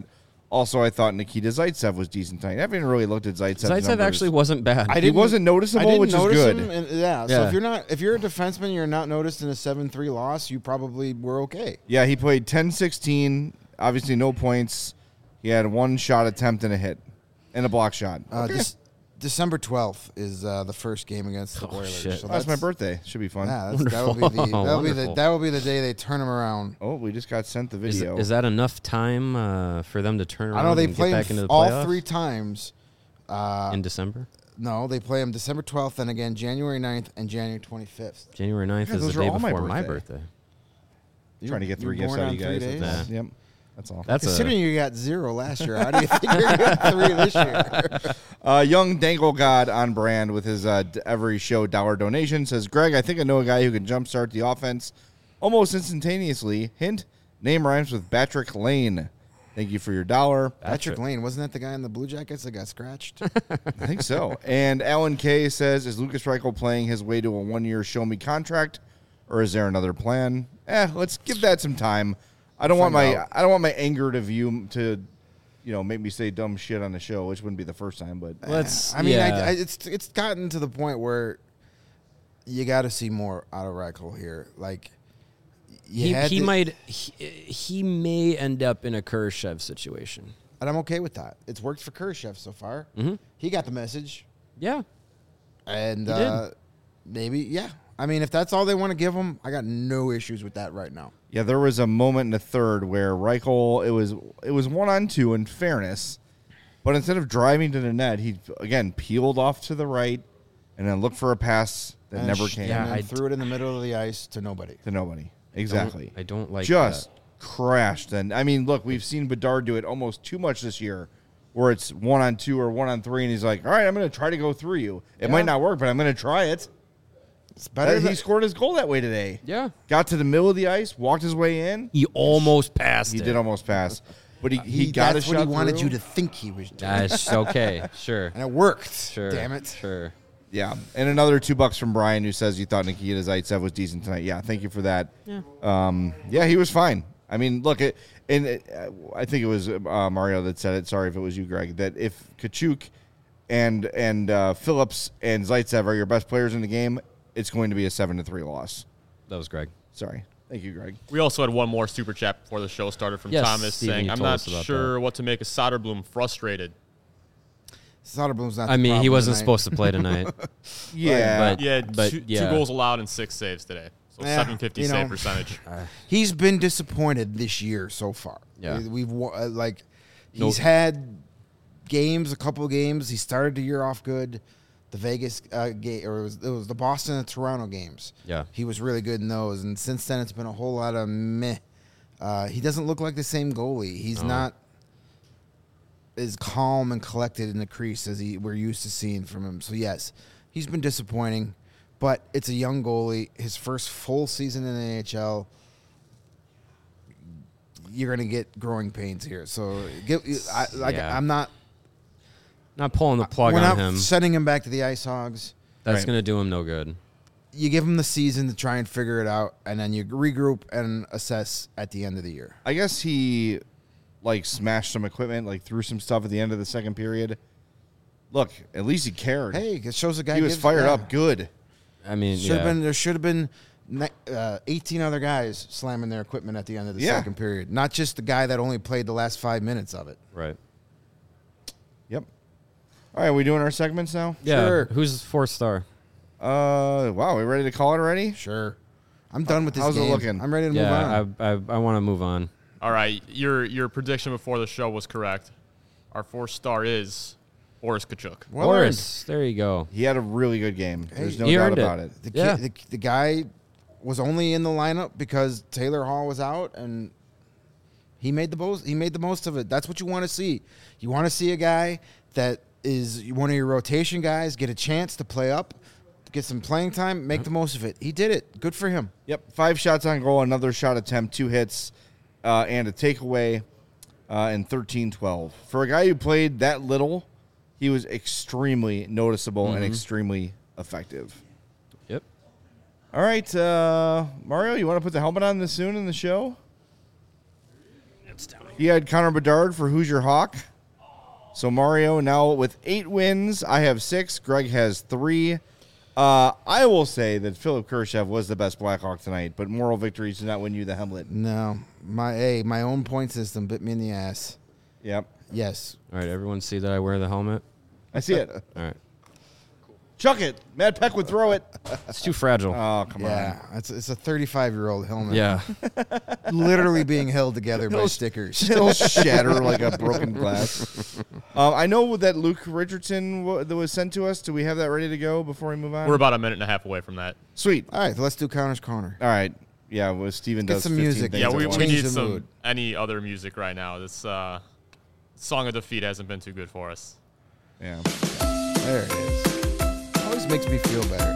Also, I thought Nikita Zaitsev was decent tonight. I haven't really looked at Zaitsev's Zaitsev numbers. actually wasn't bad. He wasn't noticeable, which is good. So if you're a defenseman, you're not noticed in a 7-3 loss, you probably were okay. Yeah, he played 10-16. Obviously, no points. He had one shot attempt and a hit, and a block shot. Okay. December 12th is the first game against the Oilers. Shit. So That's my birthday. Should be fun. Yeah, Wonderful. that will be the day they turn them around. Oh, we just got sent the Is, video. is that enough time for them to turn around I know they and play get back into the all playoffs 3 times. in December? No, they play them December 12th and again January 9th and January 25th. January 9th Yeah, is those the are day all my before my birthday. birthday. Trying to get 3 You're gifts born out of you on 3 guys. days? That's all. Yep. That's all. That's Considering you got 0 last year, how do you think you're going to get 3 this year? Young Dangle God on brand with his every show dollar donation says, Greg, I think I know a guy who can jumpstart the offense almost instantaneously. Hint, name rhymes with Patrick Lane. Thank you for your $1. Patrick Lane, wasn't that the guy in the Blue Jackets that got scratched? I think so. And Alan K says, is Lucas Reichel playing his way to a 1-year show-me contract, or is there another plan? Let's give that some time. I don't want my anger to make me say dumb shit on the show, which wouldn't be the first time. But it's gotten to the point where you got to see more out of Reichel here. Like he may end up in a Kurashev situation. And I'm okay with that. It's worked for Kurashev so far. Mm-hmm. He got the message. Yeah. And He did. maybe, yeah. I mean, if that's all they want to give him, I got no issues with that right now. yeah, there was a moment in the third where Reichel, it was 1-on-2 in fairness, but instead of driving to the net, he again peeled off to the right and then looked for a pass that never came. And then I threw it in the middle of the ice to nobody. To nobody. Exactly. I don't like just that. crashed. And I mean, look, we've seen Bedard do it almost too much this year, where it's 1-on-2 or 1-on-3, and he's like, "All right, I'm going to try to go through you. It might not work, but I'm going to try it." It's better. He scored his goal that way today. Yeah. Got to the middle of the ice, walked his way in. He almost passed He it. did almost pass, but he got that's a what shot he wanted through. you to think he was doing. Okay, sure. And it worked. Sure. Damn it. Sure. Yeah, and another $2 from Brian, who says you thought Nikita Zaitsev was decent tonight. Yeah, thank you for that. Yeah. He was fine. I mean, look, I think it was Mario that said it. Sorry if it was you, Greg. That if Kachuk and Phillips and Zaitsev are your best players in the game, it's going to be a 7-3 loss. That was Greg. Sorry, thank you, Greg. We also had one more super chat before the show started from Yes, Thomas Steven, saying, you "I'm told not us about sure what to make of Soderblom frustrated." Soderblom's not. I the mean, he problem wasn't tonight. supposed to play tonight. Yeah, But- He had two yeah. goals allowed and 6 saves today, so Yeah, 750 you know. save percentage. He's been disappointed this year so far. Yeah. He's had games, a couple of games. He started the year off good. The Vegas game, or it was the Boston and Toronto games. Yeah. He was really good in those, and since then it's been a whole lot of meh. He doesn't look like the same goalie. He's not as calm and collected in the crease as we're used to seeing from him. So yes, he's been disappointing, but it's a young goalie. His first full season in the NHL. You're gonna get growing pains here. So Yeah. I'm not. Not pulling the plug We're on not him. sending him back to the Ice Hogs. That's Right. going to do him no good. You give him the season to try and figure it out, and then you regroup and assess at the end of the year. I guess he smashed some equipment, threw some stuff at the end of the second period. Look, at least he cared. Hey, it shows a guy. he was fired up. Good. I mean, There should have been 18 other guys slamming their equipment at the end of the second period, not just the guy that only played the last 5 minutes of it. Right. Yep. All right, are we doing our segments now? Yeah. Sure. Who's 4-star? Wow, we ready to call it already? Sure, I'm done with this How's it game. looking? I'm ready to move on. Yeah, I want to move on. All right, your prediction before the show was correct. Our 4-star is Boris Kachuk. Well Boris, there you go. He had a really good game. There's no he doubt earned it. about it. The, Yeah. the guy was only in the lineup because Taylor Hall was out, and he made the most. He made the most of it. That's what you want to see. You want to see a guy that is one of your rotation guys get a chance to play up, get some playing time, make the most of it. He did it. Good for him. Yep, 5 shots on goal, another shot attempt, 2 hits, and a takeaway, and 13-12. For a guy who played that little, he was extremely noticeable and extremely effective. Yep. All right, Mario, you want to put the helmet on this soon in the show? He had Connor Bedard for Hoosier Hawk. So Mario now with 8 wins. I have 6. Greg has 3. I will say that Philip Kurashev was the best Blackhawk tonight, but moral victories do not win you the Hemlet. No, my own point system bit me in the ass. Yep. Yes. All right, everyone see that I wear the helmet? I see it. All right. Chuck it. Matt Peck would throw it. It's too fragile. Oh, come Yeah, it's a 35-year-old helmet. Yeah. Literally being held together by stickers. It'll shatter like a broken glass. I know that Luke Richardson that was sent to us. Do we have that ready to go before we move on? We're about a minute and a half away from that. Sweet. All right, let's do Connor's Corner. All right. Yeah, well, Steven Get does some 15 music. things Yeah, at we once. Change need the some mood. any other music right now. This Song of Defeat hasn't been too good for us. Yeah. There it is. Always makes me feel better.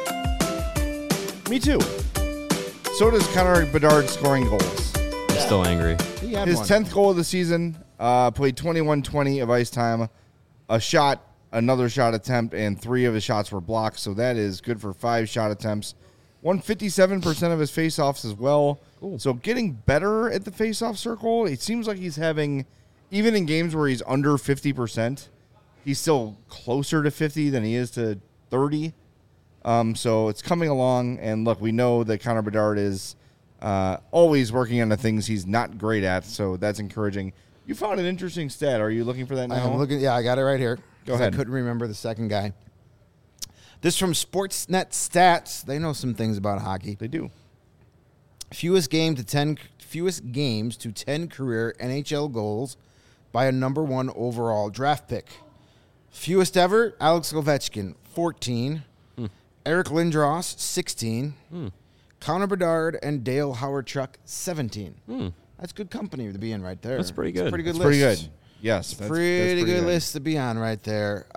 Me too. So does Connor Bedard scoring goals. I'm still angry. He had His one. 10th goal of the season, played 21-20 of ice time, a shot, another shot attempt, and 3 of his shots were blocked. So that is good for 5 shot attempts. Won 57% of his faceoffs as well. Cool. So getting better at the faceoff circle. It seems like he's having, even in games where he's under 50%, he's still closer to 50 than he is to 30. So it's coming along. And look, we know that Connor Bedard is always working on the things he's not great at. So that's encouraging. You found an interesting stat. Are you looking for that now? I'm looking. Yeah, I got it right here. Go 'Cause ahead. I couldn't remember the second guy. This from Sportsnet Stats. They know some things about hockey. They do. Fewest games to 10 career NHL goals by a number 1 overall draft pick. Fewest ever, Alex Ovechkin, 14. Eric Lindros, 16. Connor Bedard and Dale Howard-Chuck, 17. That's good company to be in right there. That's pretty It's a good. pretty good That's pretty list. good. Yes. That's Pretty good list to be on right there.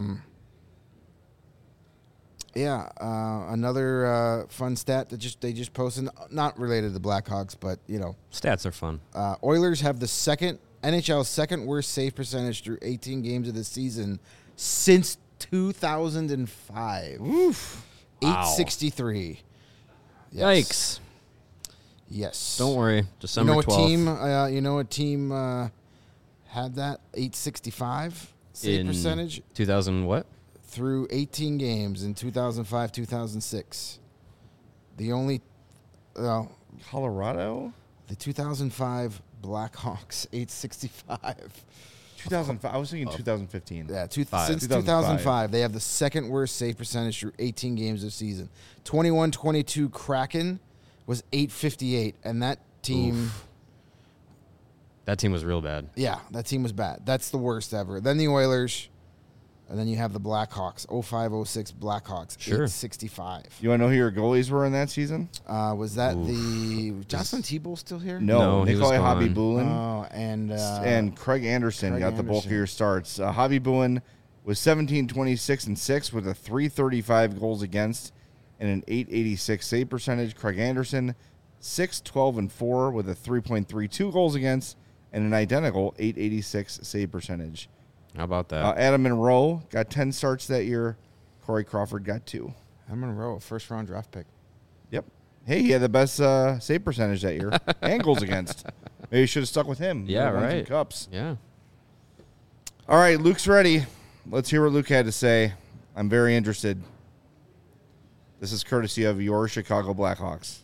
Another fun stat that they just posted, not related to the Blackhawks, but Stats are fun. Oilers have the NHL's second worst save percentage through 18 games of the season since 2005. Oof. 863. Yes. Yikes. Yes. Don't worry. December 12th. You know what team had that 865 save in percentage 2000 what? through 18 games in 2005, 2006. The only Colorado? the 2005 Blackhawks 865. 2005. I was thinking 2015. Yeah, since 2005. 2005, they have the second worst save percentage through 18 games of season. 21-22 Kraken was 858, and that team, That team was real bad. yeah, that team was bad. That's the worst ever. Then the Oilers, and then you have the Blackhawks, 05-06 Blackhawks, Sure. 865. You want to know who your goalies were in that season? Was that the Jocelyn Thibault still here? No, he was Nikolai Hobby gone. Bulin Oh, and Craig Anderson got the bulkier starts. Hobby Bulin was 17-26-6 with a 335 goals against and an 886 save percentage. Craig Anderson 6-12-4 with a 3.32 goals against and an identical 886 save percentage. How about that? Adam Monroe got 10 starts that year. Corey Crawford got 2. I'm in a row, first round draft pick. Yep. Hey, he had the best save percentage that year and goals against. Maybe you should have stuck with him. Yeah, Would've won some right. Cups. Yeah. All right, Luke's ready. Let's hear what Luke had to say. I'm very interested. This is courtesy of your Chicago Blackhawks.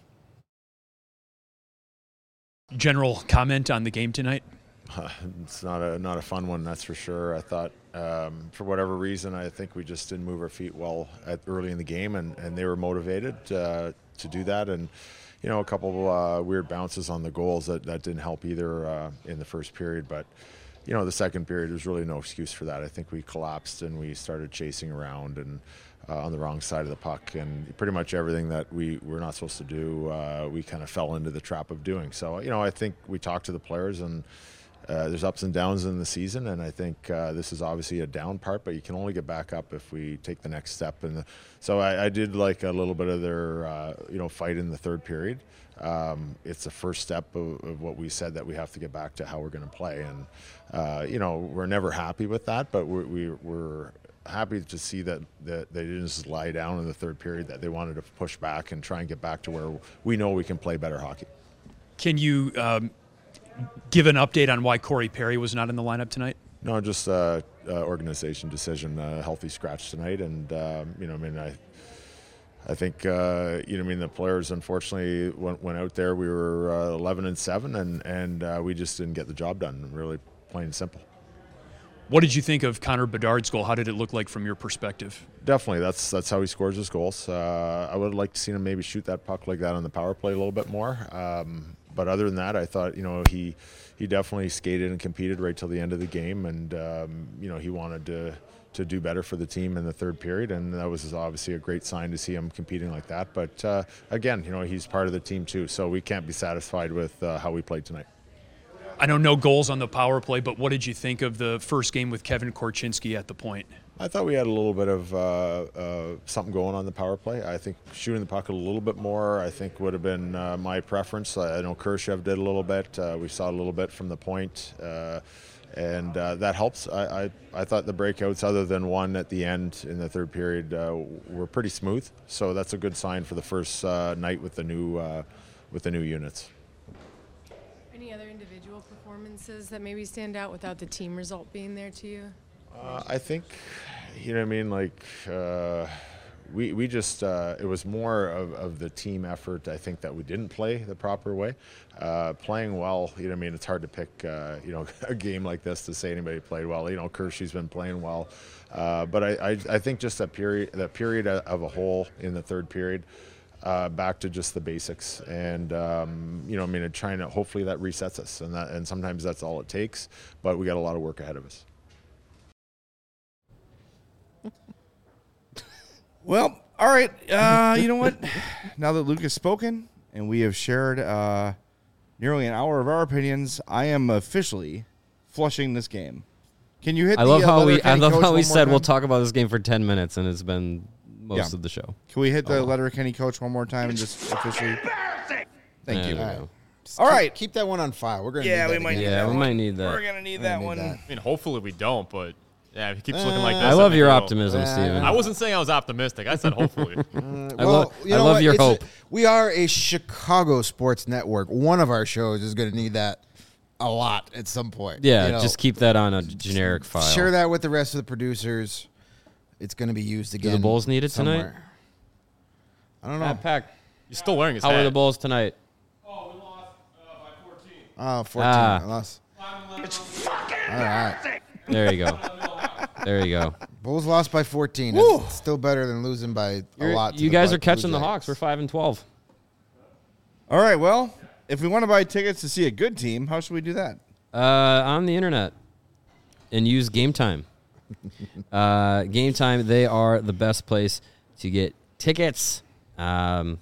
General comment on the game tonight? It's not a fun one, that's for sure. I thought, for whatever reason, I think we just didn't move our feet well early in the game, and they were motivated to do that. And a couple of weird bounces on the goals that didn't help either in the first period. But the second period, there's really no excuse for that. I think we collapsed and we started chasing around and on the wrong side of the puck, and pretty much everything that we were not supposed to do, we kind of fell into the trap of doing. So I think we talked to the players, and there's ups and downs in the season, and I think this is obviously a down part, but you can only get back up if we take the next step. And so I did like a little bit of their fight in the third period. It's the first step of what we said, that we have to get back to how we're going to play, and we're never happy with that, but we're happy to see that they didn't just lie down in the third period, that they wanted to push back and try and get back to where we know we can play better hockey. Can you give an update on why Corey Perry was not in the lineup tonight? No, just organization decision, healthy scratch tonight. And, I think, the players unfortunately went out there. We were 11-7, and we just didn't get the job done, really plain and simple. What did you think of Connor Bedard's goal? How did it look like from your perspective? Definitely, that's how he scores his goals. I would have liked to see him maybe shoot that puck like that on the power play a little bit more. But other than that, I thought, he definitely skated and competed right till the end of the game, and he wanted to do better for the team in the third period, and that was obviously a great sign to see him competing like that. But again, he's part of the team too, so we can't be satisfied with how we played tonight. I know no goals on the power play, but what did you think of the first game with Kevin Korchinski at the point? I thought we had a little bit of something going on the power play. I think shooting the puck a little bit more, I think, would have been my preference. I know Khrushchev did a little bit. We saw a little bit from the point, and that helps. I thought the breakouts, other than one at the end in the third period, were pretty smooth. So that's a good sign for the first night with the new units. Any other individual performances that maybe stand out without the team result being there to you? I think, we just, it was more of the team effort, I think, that we didn't play the proper way. Playing well, it's hard to pick, a game like this to say anybody played well. Kershey's been playing well. But I think just that period of a whole in the third period, back to just the basics, and trying to, hopefully that resets us, and sometimes that's all it takes, but we got a lot of work ahead of us. Well, all right. You know what? Now that Luke has spoken and we have shared nearly an hour of our opinions, I am officially flushing this game. Can you hit? I love how we said we'll talk about this game for 10 minutes, and it's been most of the show. Can we hit the Letterkenny coach one more time and just officially? Thank you. All right, keep that one on file. We're gonna. Yeah, need that we might. again. Need that we might need that. We're gonna need that one. I mean, hopefully we don't, but yeah, if it keeps looking like this. I love your optimism, Steven. I wasn't saying I was optimistic. I said hopefully. I love your hope. We are a Chicago sports network. One of our shows is going to need that a lot at some point. Yeah, just keep that on a generic file. Share that with the rest of the producers. It's going to be used again. Do the Bulls need it somewhere. tonight? I don't know. Pack. You're still wearing his How hat. are the Bulls tonight? Oh, we lost by 14. Oh, 14. I lost. It's fucking All right. embarrassing. There you go. There you go. Bulls lost by 14. It's still better than losing by a lot. You guys are catching the Hawks. We're 5-12. All right. Well, if we want to buy tickets to see a good team, how should we do that? On the internet and use Game Time. Game Time, they are the best place to get tickets. When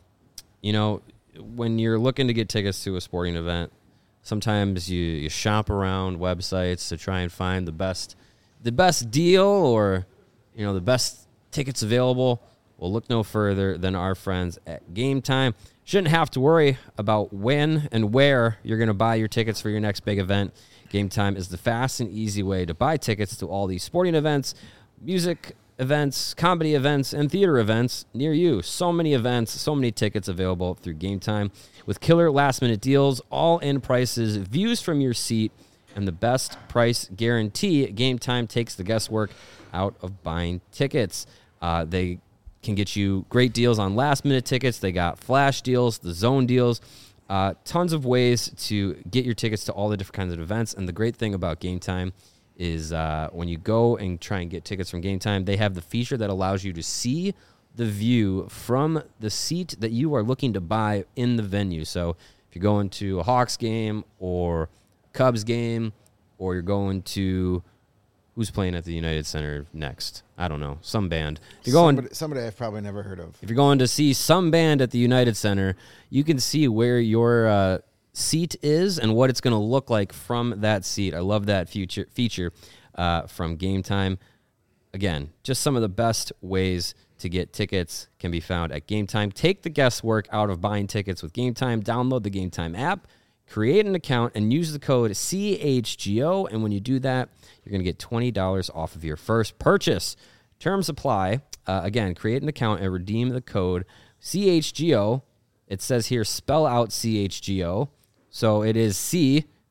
you're looking to get tickets to a sporting event, sometimes you shop around websites to try and find the best deal or, the best tickets available. Well, look no further than our friends at Game Time. Shouldn't have to worry about when and where you're going to buy your tickets for your next big event. Game Time is the fast and easy way to buy tickets to all these sporting events, music events, comedy events, and theater events near you. So many events, so many tickets available through Game Time with killer last-minute deals, all-in prices, views from your seat, and the best price guarantee. Game Time takes the guesswork out of buying tickets. They can get you great deals on last-minute tickets. They got flash deals, the zone deals, tons of ways to get your tickets to all the different kinds of events. And the great thing about Game Time is when you go and try and get tickets from Game Time, they have the feature that allows you to see the view from the seat that you are looking to buy in the venue. So if you're going to a Hawks game or Cubs game, or you're going to who's playing at the United Center next? I don't know. Some band. If you're going somebody I've probably never heard of. If you're going to see some band at the United Center, you can see where your seat is and what it's going to look like from that seat. I love that feature from Game Time. Again, just some of the best ways to get tickets can be found at Game Time. Take the guesswork out of buying tickets with Game Time. Download the Game Time app, create an account, and use the code CHGO. And when you do that, you're going to get $20 off of your first purchase. Terms apply. Again, create an account and redeem the code CHGO. It says here, spell out CHGO. So it is CHGO.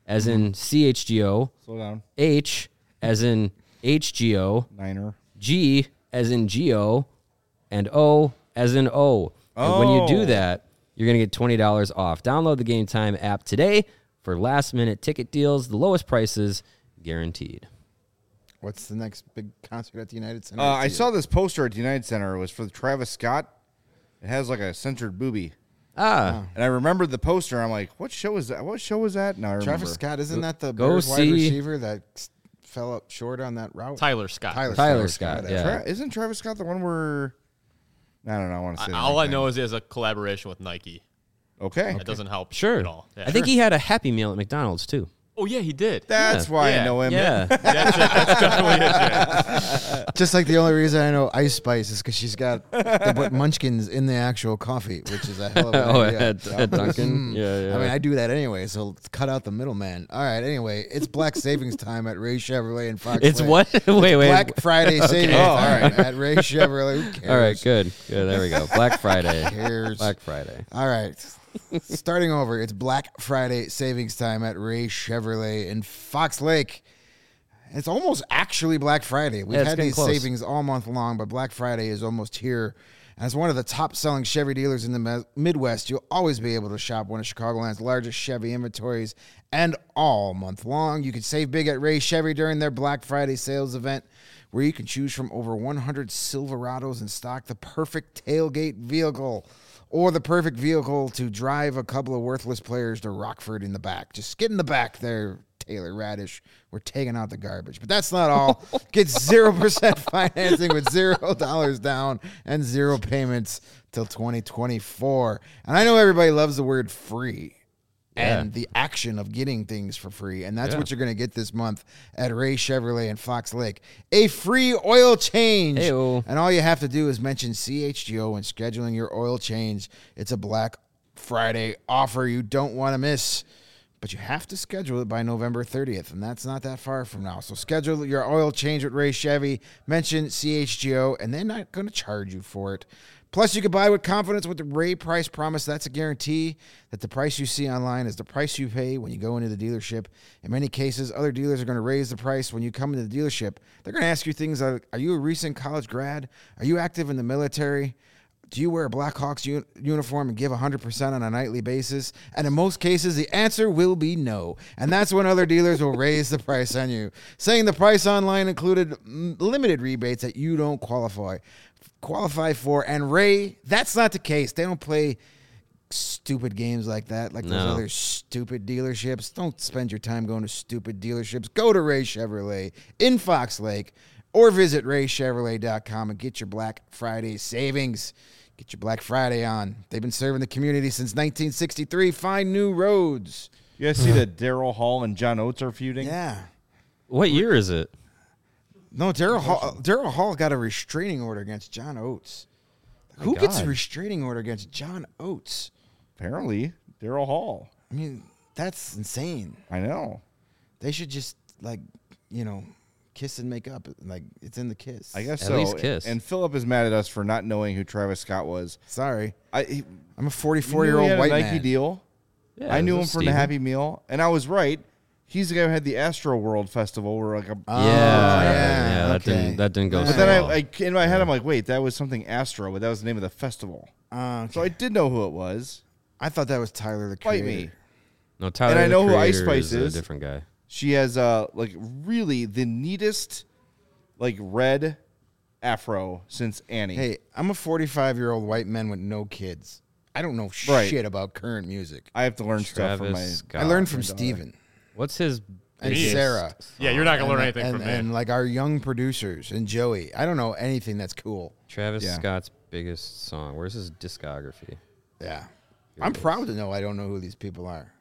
as in CHGO, Slow down. H as in HGO, Niner. G as in Geo, and O as in O. And when you do Oh. that, you're going to get $20 off. Download the Game Time app today for last-minute ticket deals, the lowest prices guaranteed. What's the next big concert at the United Center? I saw this poster at the United Center. It was for Travis Scott. It has like a censored boobie. Ah, And I remembered the poster. I'm like, what show is that? What show was that? Now I remember. Travis Scott, isn't that the Go Bears wide see- receiver that fell up short on that route? Tyler Scott. Tyler Scott, yeah. Isn't Travis Scott the one where... I don't know. I want to say All I know is he has a collaboration with Nike. Okay. That doesn't help Sure. at all. Yeah. I think he had a Happy Meal at McDonald's, too. Oh, yeah, he did. That's Yeah. why I Yeah. know him. Yeah. That's it. That's definitely it, Jay. Just like the only reason I know Ice Spice is because she's got they put munchkins in the actual coffee, which is a hell of an Oh, idea. at Dunkin'? Yeah. I mean, I do that anyway, so let's cut out the middleman. All right, anyway, it's Black Savings Time at Ray Chevrolet and Fox It's Lake. what? Wait. Black Friday savings Oh, all time right. at Ray Chevrolet. Who cares? All right, good. There we go. Black Friday. Cares? Black Friday. All right. Starting over, it's Black Friday savings time at Ray Chevrolet in Fox Lake. It's almost actually Black Friday. We've Yeah, it's had getting these close. savings all month long, but Black Friday is almost here. And as one of the top-selling Chevy dealers in the Midwest, you'll always be able to shop one of Chicagoland's largest Chevy inventories. And all month long, you can save big at Ray Chevy during their Black Friday sales event, where you can choose from over 100 Silverados in stock, the perfect tailgate vehicle, or the perfect vehicle to drive a couple of worthless players to Rockford in the back. Just get in the back there, Taylor Radish. We're taking out the garbage. But that's not all. Get 0% financing with $0 down and 0 payments till 2024. And I know everybody loves the word free and the action of getting things for free. And that's what you're going to get this month at Ray Chevrolet in Fox Lake. A free oil change. Heyo. And all you have to do is mention CHGO when scheduling your oil change. It's a Black Friday offer you don't want to miss. But you have to schedule it by November 30th, and that's not that far from now. So schedule your oil change with Ray Chevy, mention CHGO, and they're not going to charge you for it. Plus, you can buy with confidence with the Ray Price Promise. That's a guarantee that the price you see online is the price you pay when you go into the dealership. In many cases, other dealers are going to raise the price when you come into the dealership. They're going to ask you things like, are you a recent college grad? Are you active in the military? Do you wear a Blackhawks uniform and give 100% on a nightly basis? And in most cases, the answer will be no. And that's when other dealers will raise the price on you, saying the price online included limited rebates that you don't qualify for. And Ray, that's not the case. They don't play stupid games like that, like those No. other stupid dealerships. Don't spend your time going to stupid dealerships. Go to Ray Chevrolet in Fox Lake or visit raychevrolet.com and get your Black Friday savings. Get your Black Friday on. They've been serving the community since 1963. Find new roads. You guys see that Daryl Hall and John Oates are feuding? Yeah. What year is it? No, Daryl Hall got a restraining order against John Oates. Who gets a God. restraining order against John Oates? Apparently, Daryl Hall. I mean, that's insane. I know. They should just, kiss and make up. Like, it's in the kiss. I guess At so. least kiss. And Philip is mad at us for not knowing who Travis Scott was. Sorry. I'm I'm a a 44-year-old white Nike man. deal. Yeah, I knew him this is from the Steven. Happy Meal, and I was right. He's the guy who had the Astro World Festival, where Yeah, yeah, that okay. didn't go. But so then well. I in my head, I'm like, wait, that was something Astro, but that was the name of the festival. So I did know who it was. I thought that was Tyler the Fight Creator. me. No, Tyler. I the know who Ice Creator Spice is. is. A different guy. She has really the neatest red afro since Annie. Hey, I'm a 45-year-old white man with no kids. I don't know Right. shit about current music. I have to learn stuff from my. Travis Scott. I learned from my daughter. Steven What's his? and Jeez. Sarah. Yeah, you're not going to learn anything and, from me. and like our young producers and Joey. I don't know anything that's cool. Travis Yeah. Scott's biggest song. Where's his discography? Yeah. I'm proud to know I don't know who these people are.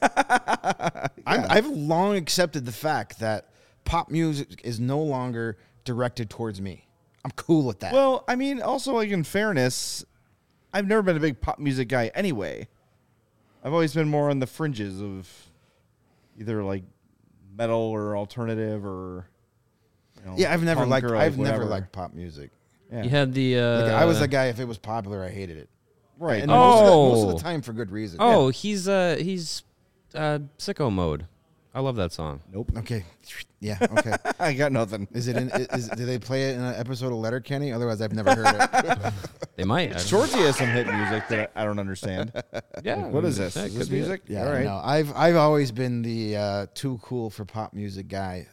I've long accepted the fact that pop music is no longer directed towards me. I'm cool with that. Well, I mean, also in fairness, I've never been a big pop music guy anyway. I've always been more on the fringes of either metal or alternative or. yeah, I've never punk liked. or, I've never whatever. liked pop music. Yeah. You had the. I was the guy. If it was popular, I hated it. Right. And most of the time for good reason. Oh, he's sicko mode. I love that song. Nope. Okay. Yeah. Okay. I got nothing. Is it in? Do they play it in an episode of Letterkenny? Otherwise, I've never heard it. They might. I don't Shorty has some hit music that I don't understand. know. Yeah. What is this? that Is could this be it. music? Yeah. All right. No, I've always been the too cool for pop music guy.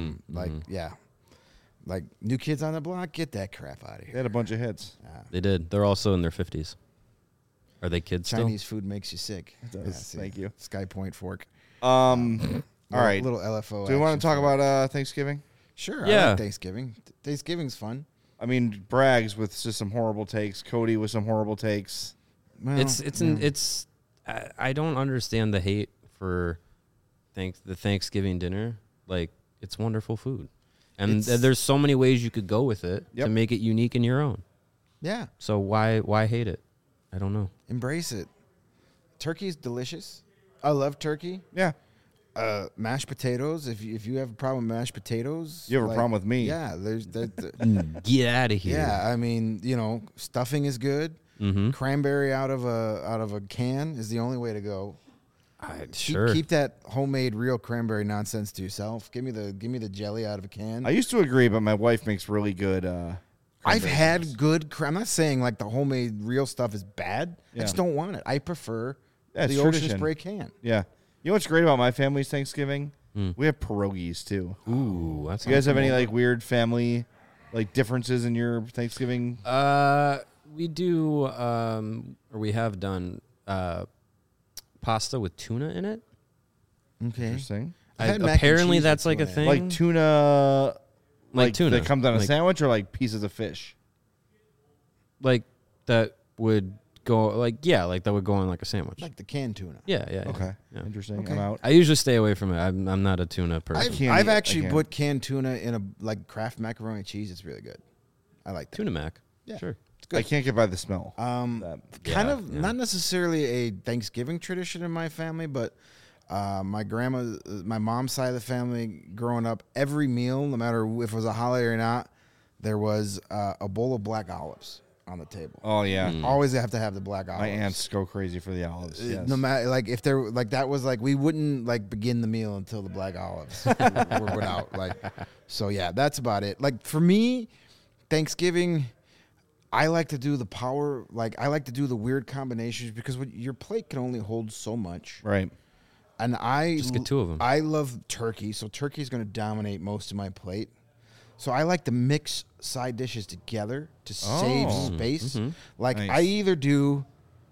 Like New Kids on the Block. Get that crap out of They here. had a bunch of hits. They did. They're also in their 50s. Are they kids Chinese food makes you sick. does. Thank you. Sky Point Fork. All right. Little LFO. Do we want action to talk figure. about Thanksgiving? Sure. I Yeah. like Thanksgiving. Thanksgiving's fun. I mean, Braggs with just some horrible takes. Cody with some horrible takes. Well, It's I don't understand the hate for the Thanksgiving dinner. Like, it's wonderful food. And there's so many ways you could go with it Yep. to make it unique in your own. yeah. So why hate it? I don't know. Embrace it. Turkey's delicious. I love turkey. Yeah. Mashed potatoes. If you have a problem with mashed potatoes, You have a problem with me. Yeah, there's that. Get out of here. Yeah, I mean, stuffing is good. Mm-hmm. Cranberry out of a can is the only way to go. Sure. Keep that homemade real cranberry nonsense to yourself. Give me the jelly out of a can. I used to agree, but my wife makes really good. I've had good. I'm not saying like the homemade real stuff is bad. Yeah. I just don't want it. I prefer Yeah, it's the Ocean tradition. Spray can. Yeah. You know what's great about my family's Thanksgiving? We have pierogies too. Ooh, that's You guys have any like weird family like differences in your Thanksgiving? we do or we have done pasta with tuna in it. Okay. Interesting. I've had mac and Apparently cheese that's with like a tuna in it. thing. Like tuna, Like tuna. that comes on a Like- sandwich, or like pieces of fish. like that would go like that would go on like a sandwich. Like the canned tuna. Yeah. Okay, Yeah. interesting. Okay. I'm out. I usually stay away from it. I'm not a tuna person. can't I've eat- I actually can't. put canned tuna in a like Kraft macaroni and cheese. It's really good. I like that. Tuna mac. Yeah. Sure. I can't get by the smell. Kind Yeah, of yeah. not necessarily a Thanksgiving tradition in my family, but my grandma, my mom's side of the family, growing up, every meal, no matter if it was a holiday or not, there was a bowl of black olives on the table. Oh yeah, Always have to have the black olives. my aunts go crazy for the olives. Yes. No matter like if there like that was like we wouldn't like begin the meal until the black olives were out. Like so yeah, that's about it. Like for me, Thanksgiving, I like to do the power. Like I like to do the weird combinations because your plate can only hold so much. Right. And I Just get two of 'em. I love turkey, so turkey is going to dominate most of my plate. So I like to mix side dishes together to save space. Like Nice. I either do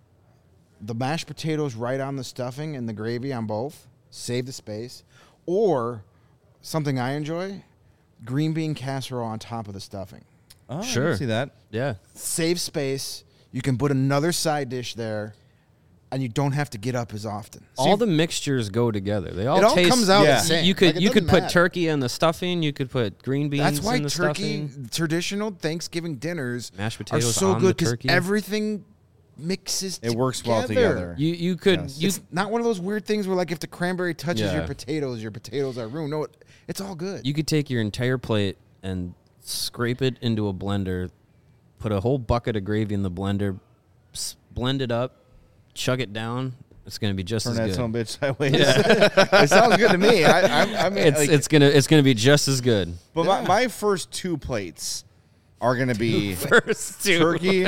the mashed potatoes right on the stuffing and the gravy on both, save the space, or something I enjoy, green bean casserole on top of the stuffing. Oh, I can Sure. see that. Yeah. Save space. You can put another side dish there, and you don't have to get up as often. All the mixtures go together. They all It all taste. comes out the You- same. You could Like, it you could doesn't put matter. turkey in the stuffing. You could put green beans. That's why in the turkey stuffing. traditional Thanksgiving dinners Mashed are potatoes so on good the turkey. everything mixes. It works well together. You could Yes. you It's not one of those weird things where like if the cranberry touches Yeah. your potatoes are ruined. No, it's all good. you could take your entire plate and scrape it into a blender, put a whole bucket of gravy in the blender, blend it up, chug it down. It's gonna be just Turn as that good. son of a bitch sideways. It sounds good to me. I mean, like, It's gonna be just as good. but my first two plates are gonna be First two.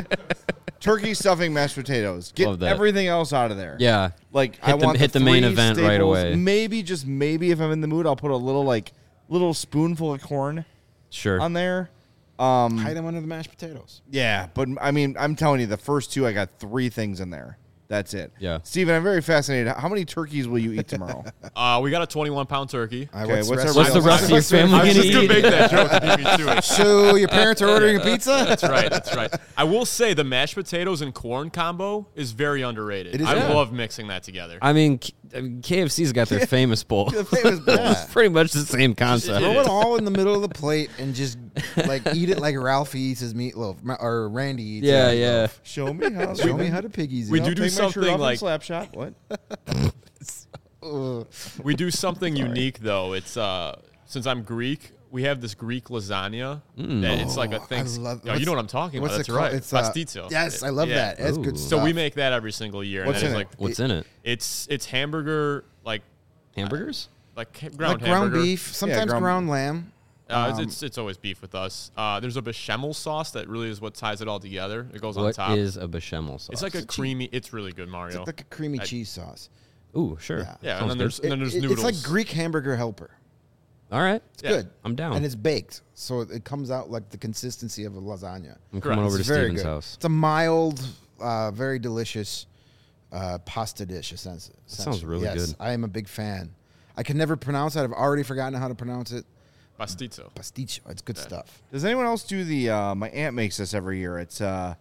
turkey stuffing, mashed potatoes. Get Love that. everything else out of there. Yeah. Like Hit I the- want hit the main three event right staples. away. Maybe just maybe if I'm in the mood, I'll put a little spoonful of corn Sure. on there. Hide them under the mashed potatoes. Yeah, but I mean, I'm telling you, the first two I got three things in there. That's it. Yeah. Steven, I'm very fascinated. How many turkeys will you eat tomorrow? We got a 21-pound turkey. Okay, what's our What's the rest of your family I was gonna just gonna eat? make that joke to beat me to it. So your parents are ordering a pizza? That's right. That's right. I will say the mashed potatoes and corn combo is very underrated. It is I good. love mixing that together. I mean, KFC's got their famous bowl. Yeah. It's pretty much the same concept. Throw it all in the middle of the plate and just like eat it like Ralphie eats his meatloaf or Randy eats Yeah, his yeah. meatloaf. Show me how. Show me how to piggies We eat. do Take my shirt something off and like- slap shot. What? We do something unique though. It's since I'm Greek, we have this Greek lasagna that it's like a thing. love- you know what I'm talking about. what's That's it called? right. It's Pastizio. Yes, I love Yeah. that. That's good Ooh. stuff. So we make that every single year. What's and that in is it? like What's in it? it's hamburger like Hamburgers? ground ground hamburger. beef, sometimes ground lamb. It's always beef with us. There's a bechamel sauce that really is what ties it all together. It goes on What top. is a bechamel sauce? It's like a creamy. It's really good, Mario. It's like a creamy cheese sauce. Ooh, sure. Yeah, Sounds and then good. there's noodles. It's like Greek hamburger helper. All right. It's good. I'm down. And it's baked, so it comes out like the consistency of a lasagna. I'm coming over to It's very Steven's good. house. It's a mild, very delicious pasta dish, essentially. Sounds really Yes, good. I am a big fan. I can never pronounce it. I've already forgotten how to pronounce it. Pastizo. Pasticcio. It's good stuff. Does anyone else do the? My aunt makes this every year. It's a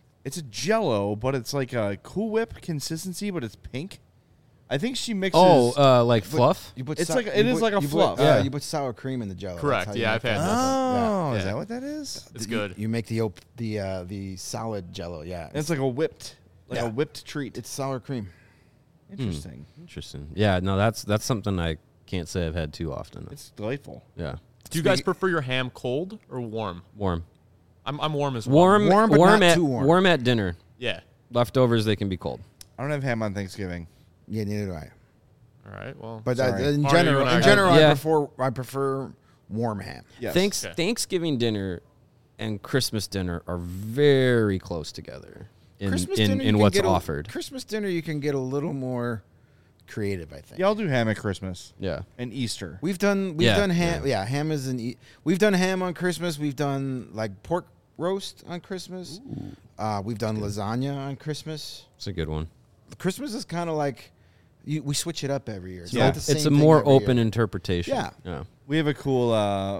Jello, but it's like a Cool Whip consistency, but it's pink. I think she mixes. Like fluff? You put It's like- it is like a fluff. Yeah, Yeah. you put sour cream in the Jello. Correct. That's how you Yeah, make I've had that. that. Oh, is Yeah. that what that is? It's good. You make the solid Jello. Yeah, And it's like a whipped treat. it's sour cream. Interesting. Interesting. Yeah, no, that's something I can't say I've had too often. It's delightful. Yeah. Do you guys prefer your ham cold or warm? Warm. I'm warm as well. Warm, but not at too warm. warm at dinner. Yeah. Leftovers, they can be cold. I don't have ham on Thanksgiving. Yeah, neither do I. All right. Well. But Sorry. in Mario, general, you and Yeah. I prefer warm ham. Yes. Okay. Thanksgiving dinner and Christmas dinner are very close together in dinner, you in can what's get offered. Christmas dinner, you can get a little more creative, I think. Yeah, I'll do ham at Christmas Yeah. and Easter. We've done ham. Yeah, ham is we've done ham on Christmas. We've done like pork roast on Christmas. We've done lasagna on Christmas. It's a good one. Christmas is kind of like we switch it up every year. It's Yeah. not the same It's a thing more every open year. interpretation. Yeah. We have a cool.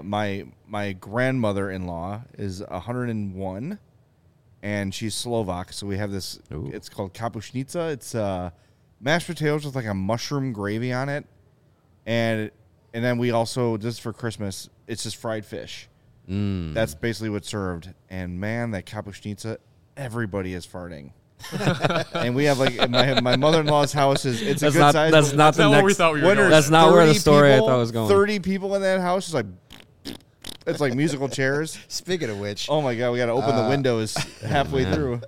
My grandmother-in-law is 101, and she's Slovak. So we have this. Ooh. It's called kapushnica. It's mashed potatoes with like a mushroom gravy on it, and then we also just for Christmas it's just fried fish. That's basically what's served. And man, that kapushnica, everybody is farting. And we have like my mother-in-law's house is it's That's a good not size. that's not the what we next. thought we were When going. there's That's not where the 30 story I people- thought was going. 30 people in that house is like, it's like musical chairs. Speaking of which, Oh my god, we got to open the windows halfway through.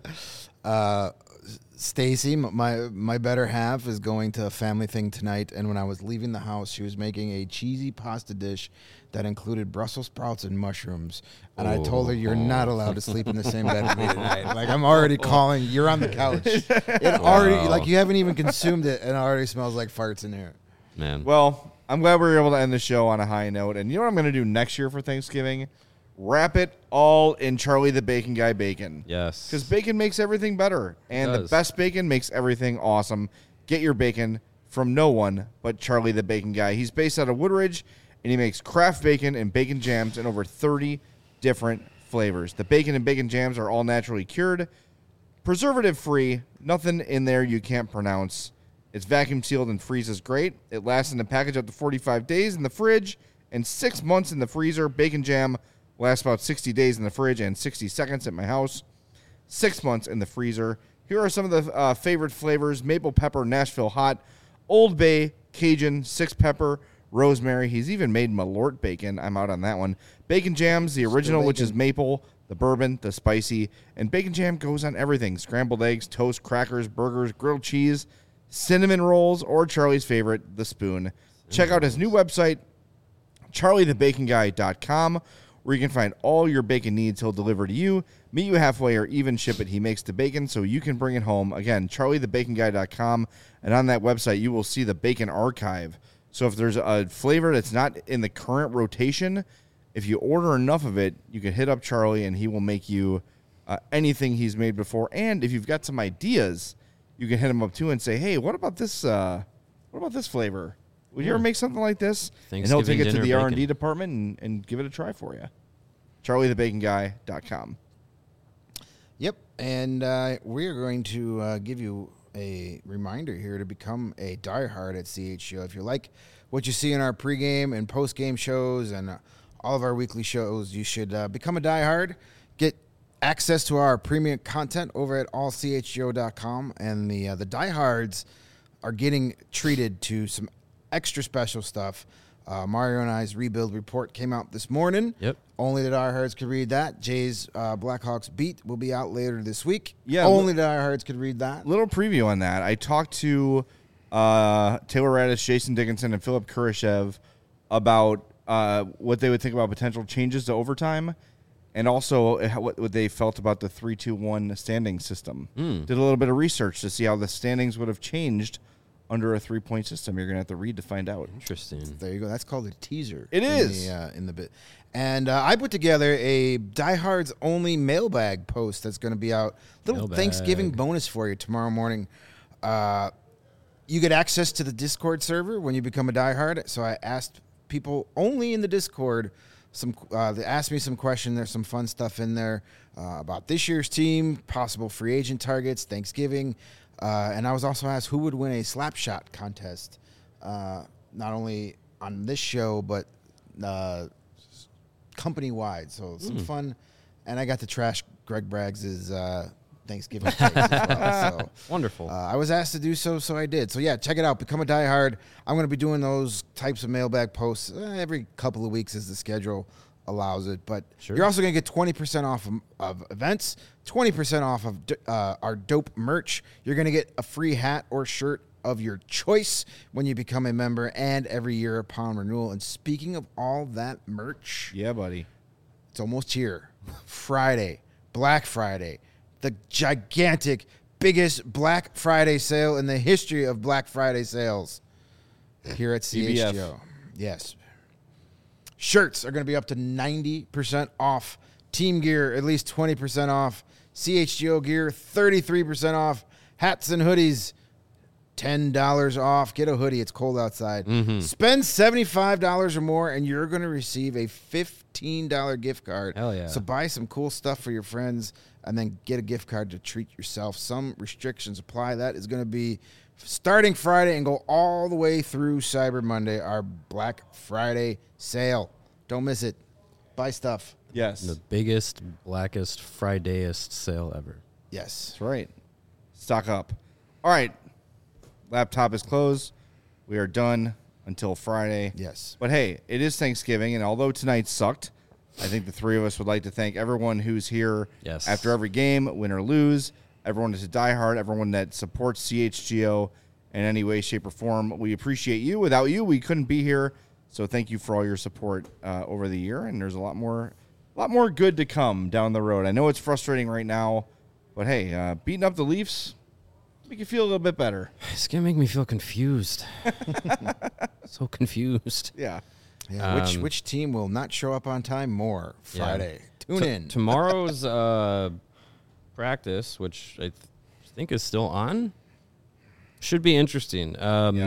Stacy, my better half, is going to a family thing tonight, and when I was leaving the house, she was making a cheesy pasta dish that included Brussels sprouts and mushrooms. And I told her, "You're not allowed to sleep in the same bed with me tonight." Like, I'm already calling. You're on the couch. It already, like, you haven't even consumed it, and it already smells like farts in here. Man. Well, I'm glad we were able to end the show on a high note. And you know what I'm going to do next year for Thanksgiving? Wrap it all in Charlie the Bacon Guy bacon. Yes. Because bacon makes everything better. And the does. best bacon makes everything awesome. Get your bacon from no one but Charlie the Bacon Guy. He's based out of Woodridge, and he makes craft bacon and bacon jams in over 30 different flavors. The bacon and bacon jams are all naturally cured, preservative-free, nothing in there you can't pronounce. It's vacuum sealed and freezes great. It lasts in the package up to 45 days in the fridge and 6 months in the freezer. Bacon jam lasts about 60 days in the fridge and 60 seconds at my house. 6 months in the freezer. Here are some of the favorite flavors: maple pepper, Nashville hot, Old Bay, Cajun, six pepper, rosemary. He's even made Malort bacon. I'm out on that one. Bacon jams, the original, which is maple, the bourbon, the spicy, and bacon jam goes on everything: scrambled eggs, toast, crackers, burgers, grilled cheese, cinnamon rolls, or Charlie's favorite, the spoon. Check out his new website, charliethebaconguy.com, where you can find all your bacon needs. He'll deliver to you, meet you halfway, or even ship it. He makes the bacon so you can bring it home. Again, charliethebaconguy.com, and on that website you will see the bacon archive. So if there's a flavor that's not in the current rotation, if you order enough of it, you can hit up Charlie and he will make you anything he's made before. And if you've got some ideas, you can hit him up too and say, "Hey, what about this? What about this flavor? Would you ever make something like this?" And he'll take it to Thanksgiving the dinner R&D bacon. department and give it a try for you. charliethebaconguy.com. Yep, and we're going to give you a reminder here to become a diehard at CHGO. If you like what you see in our pregame and postgame shows and all of our weekly shows, you should become a diehard. Get access to our premium content over at allchgo.com, and the diehards are getting treated to some extra special stuff. Mario and I's rebuild report came out this morning. Yep. Only the diehards could read that. Jay's Blackhawks beat will be out later this week. Yeah, Only the diehards could read that. Little preview on that. I talked to Taylor Radish, Jason Dickinson, and Philip Kurashev about what they would think about potential changes to overtime, and also what they felt about the 3-2-1 standing system. Did a little bit of research to see how the standings would have changed under a 3-point system. You're going to have to read to find out. Interesting. There you go. That's called a teaser. It is. In the bit. And I put together a Diehards only mailbag post that's going to be out. Little Thanksgiving bonus for you tomorrow morning. You get access to the Discord server when you become a Diehard. So I asked people only in the Discord they asked me some questions. There's some fun stuff in there about this year's team, possible free agent targets, Thanksgiving. And I was also asked who would win a slap shot contest, not only on this show, but company-wide. So some fun. And I got to trash Greg Braggs' Thanksgiving cakes as well. So, wonderful. I was asked to do so I did. So, yeah, check it out. Become a Diehard. I'm going to be doing those types of mailbag posts every couple of weeks as the schedule allows it. But you're also going to get 20% off of events, 20% off of our dope merch. You're going to get a free hat or shirt of your choice when you become a member, and every year upon renewal. And speaking of all that merch, Yeah, buddy. it's almost here. Friday, Black Friday, the gigantic, biggest Black Friday sale in the history of Black Friday sales here at CHGO. BBF. Yes. Shirts are going to be up to 90% off. Team gear, at least 20% off. CHGO gear, 33% off. Hats and hoodies, $10 off. Get a hoodie. It's cold outside. Spend $75 or more, and you're going to receive a $15 gift card. Hell yeah. So buy some cool stuff for your friends, and then get a gift card to treat yourself. Some restrictions apply. That is going to be starting Friday and go all the way through Cyber Monday, our Black Friday sale. Don't miss it. Buy stuff. Yes. The biggest, blackest, Fridayest sale ever. Yes. That's right. Stock up. All right. Laptop is closed. We are done until Friday. Yes. But hey, it is Thanksgiving, and although tonight sucked, I think the three of us would like to thank everyone who's here Yes. after every game, win or lose, everyone that's a diehard, everyone that supports CHGO in any way, shape, or form. We appreciate you. Without you, we couldn't be here. So thank you for all your support over the year, and there's a lot more good to come down the road. I know it's frustrating right now, but hey, beating up the Leafs make you feel a little bit better. It's going to make me feel confused. So confused. Yeah. Yeah. Which team will not show up on time more Friday? Tune in. Tomorrow's practice, which I think is still on, should be interesting. Yeah.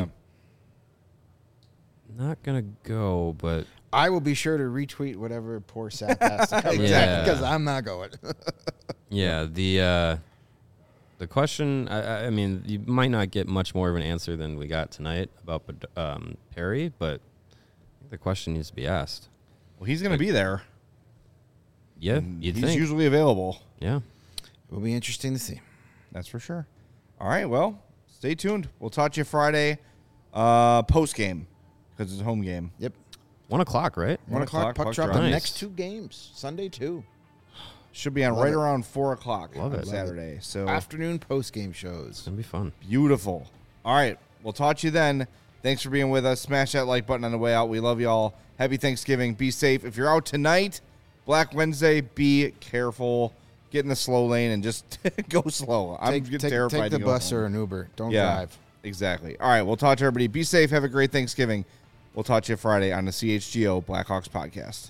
Not going to go, but I will be sure to retweet whatever poor sap has to cover Yeah. because I'm not going. yeah, the question, I mean, you might not get much more of an answer than we got tonight about Perry, but I think the question needs to be asked. Well, he's going to be there. Yeah, He's you'd think. usually available. Yeah. It will be interesting to see. That's for sure. All right, well, stay tuned. We'll talk to you Friday post-game because it's a home game. Yep. 1 o'clock, right? 1 o'clock puck drop. drop. The Nice. next two games. Sunday, too. Should be on Love right it. around 4 o'clock Love on it. Saturday. So Afternoon post-game shows. It's going to be fun. beautiful. All right, we'll talk to you then. Thanks for being with us. Smash that like button on the way out. We love you all. Happy Thanksgiving. Be safe. If you're out tonight, Black Wednesday, be careful. Get in the slow lane and just go slow. I'm terrified Take to the go bus home. or an Uber. Don't Yeah, drive. exactly. All right, we'll talk to everybody. Be safe. Have a great Thanksgiving. We'll talk to you Friday on the CHGO Blackhawks podcast.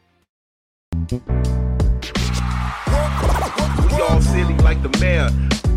We all silly like the mayor.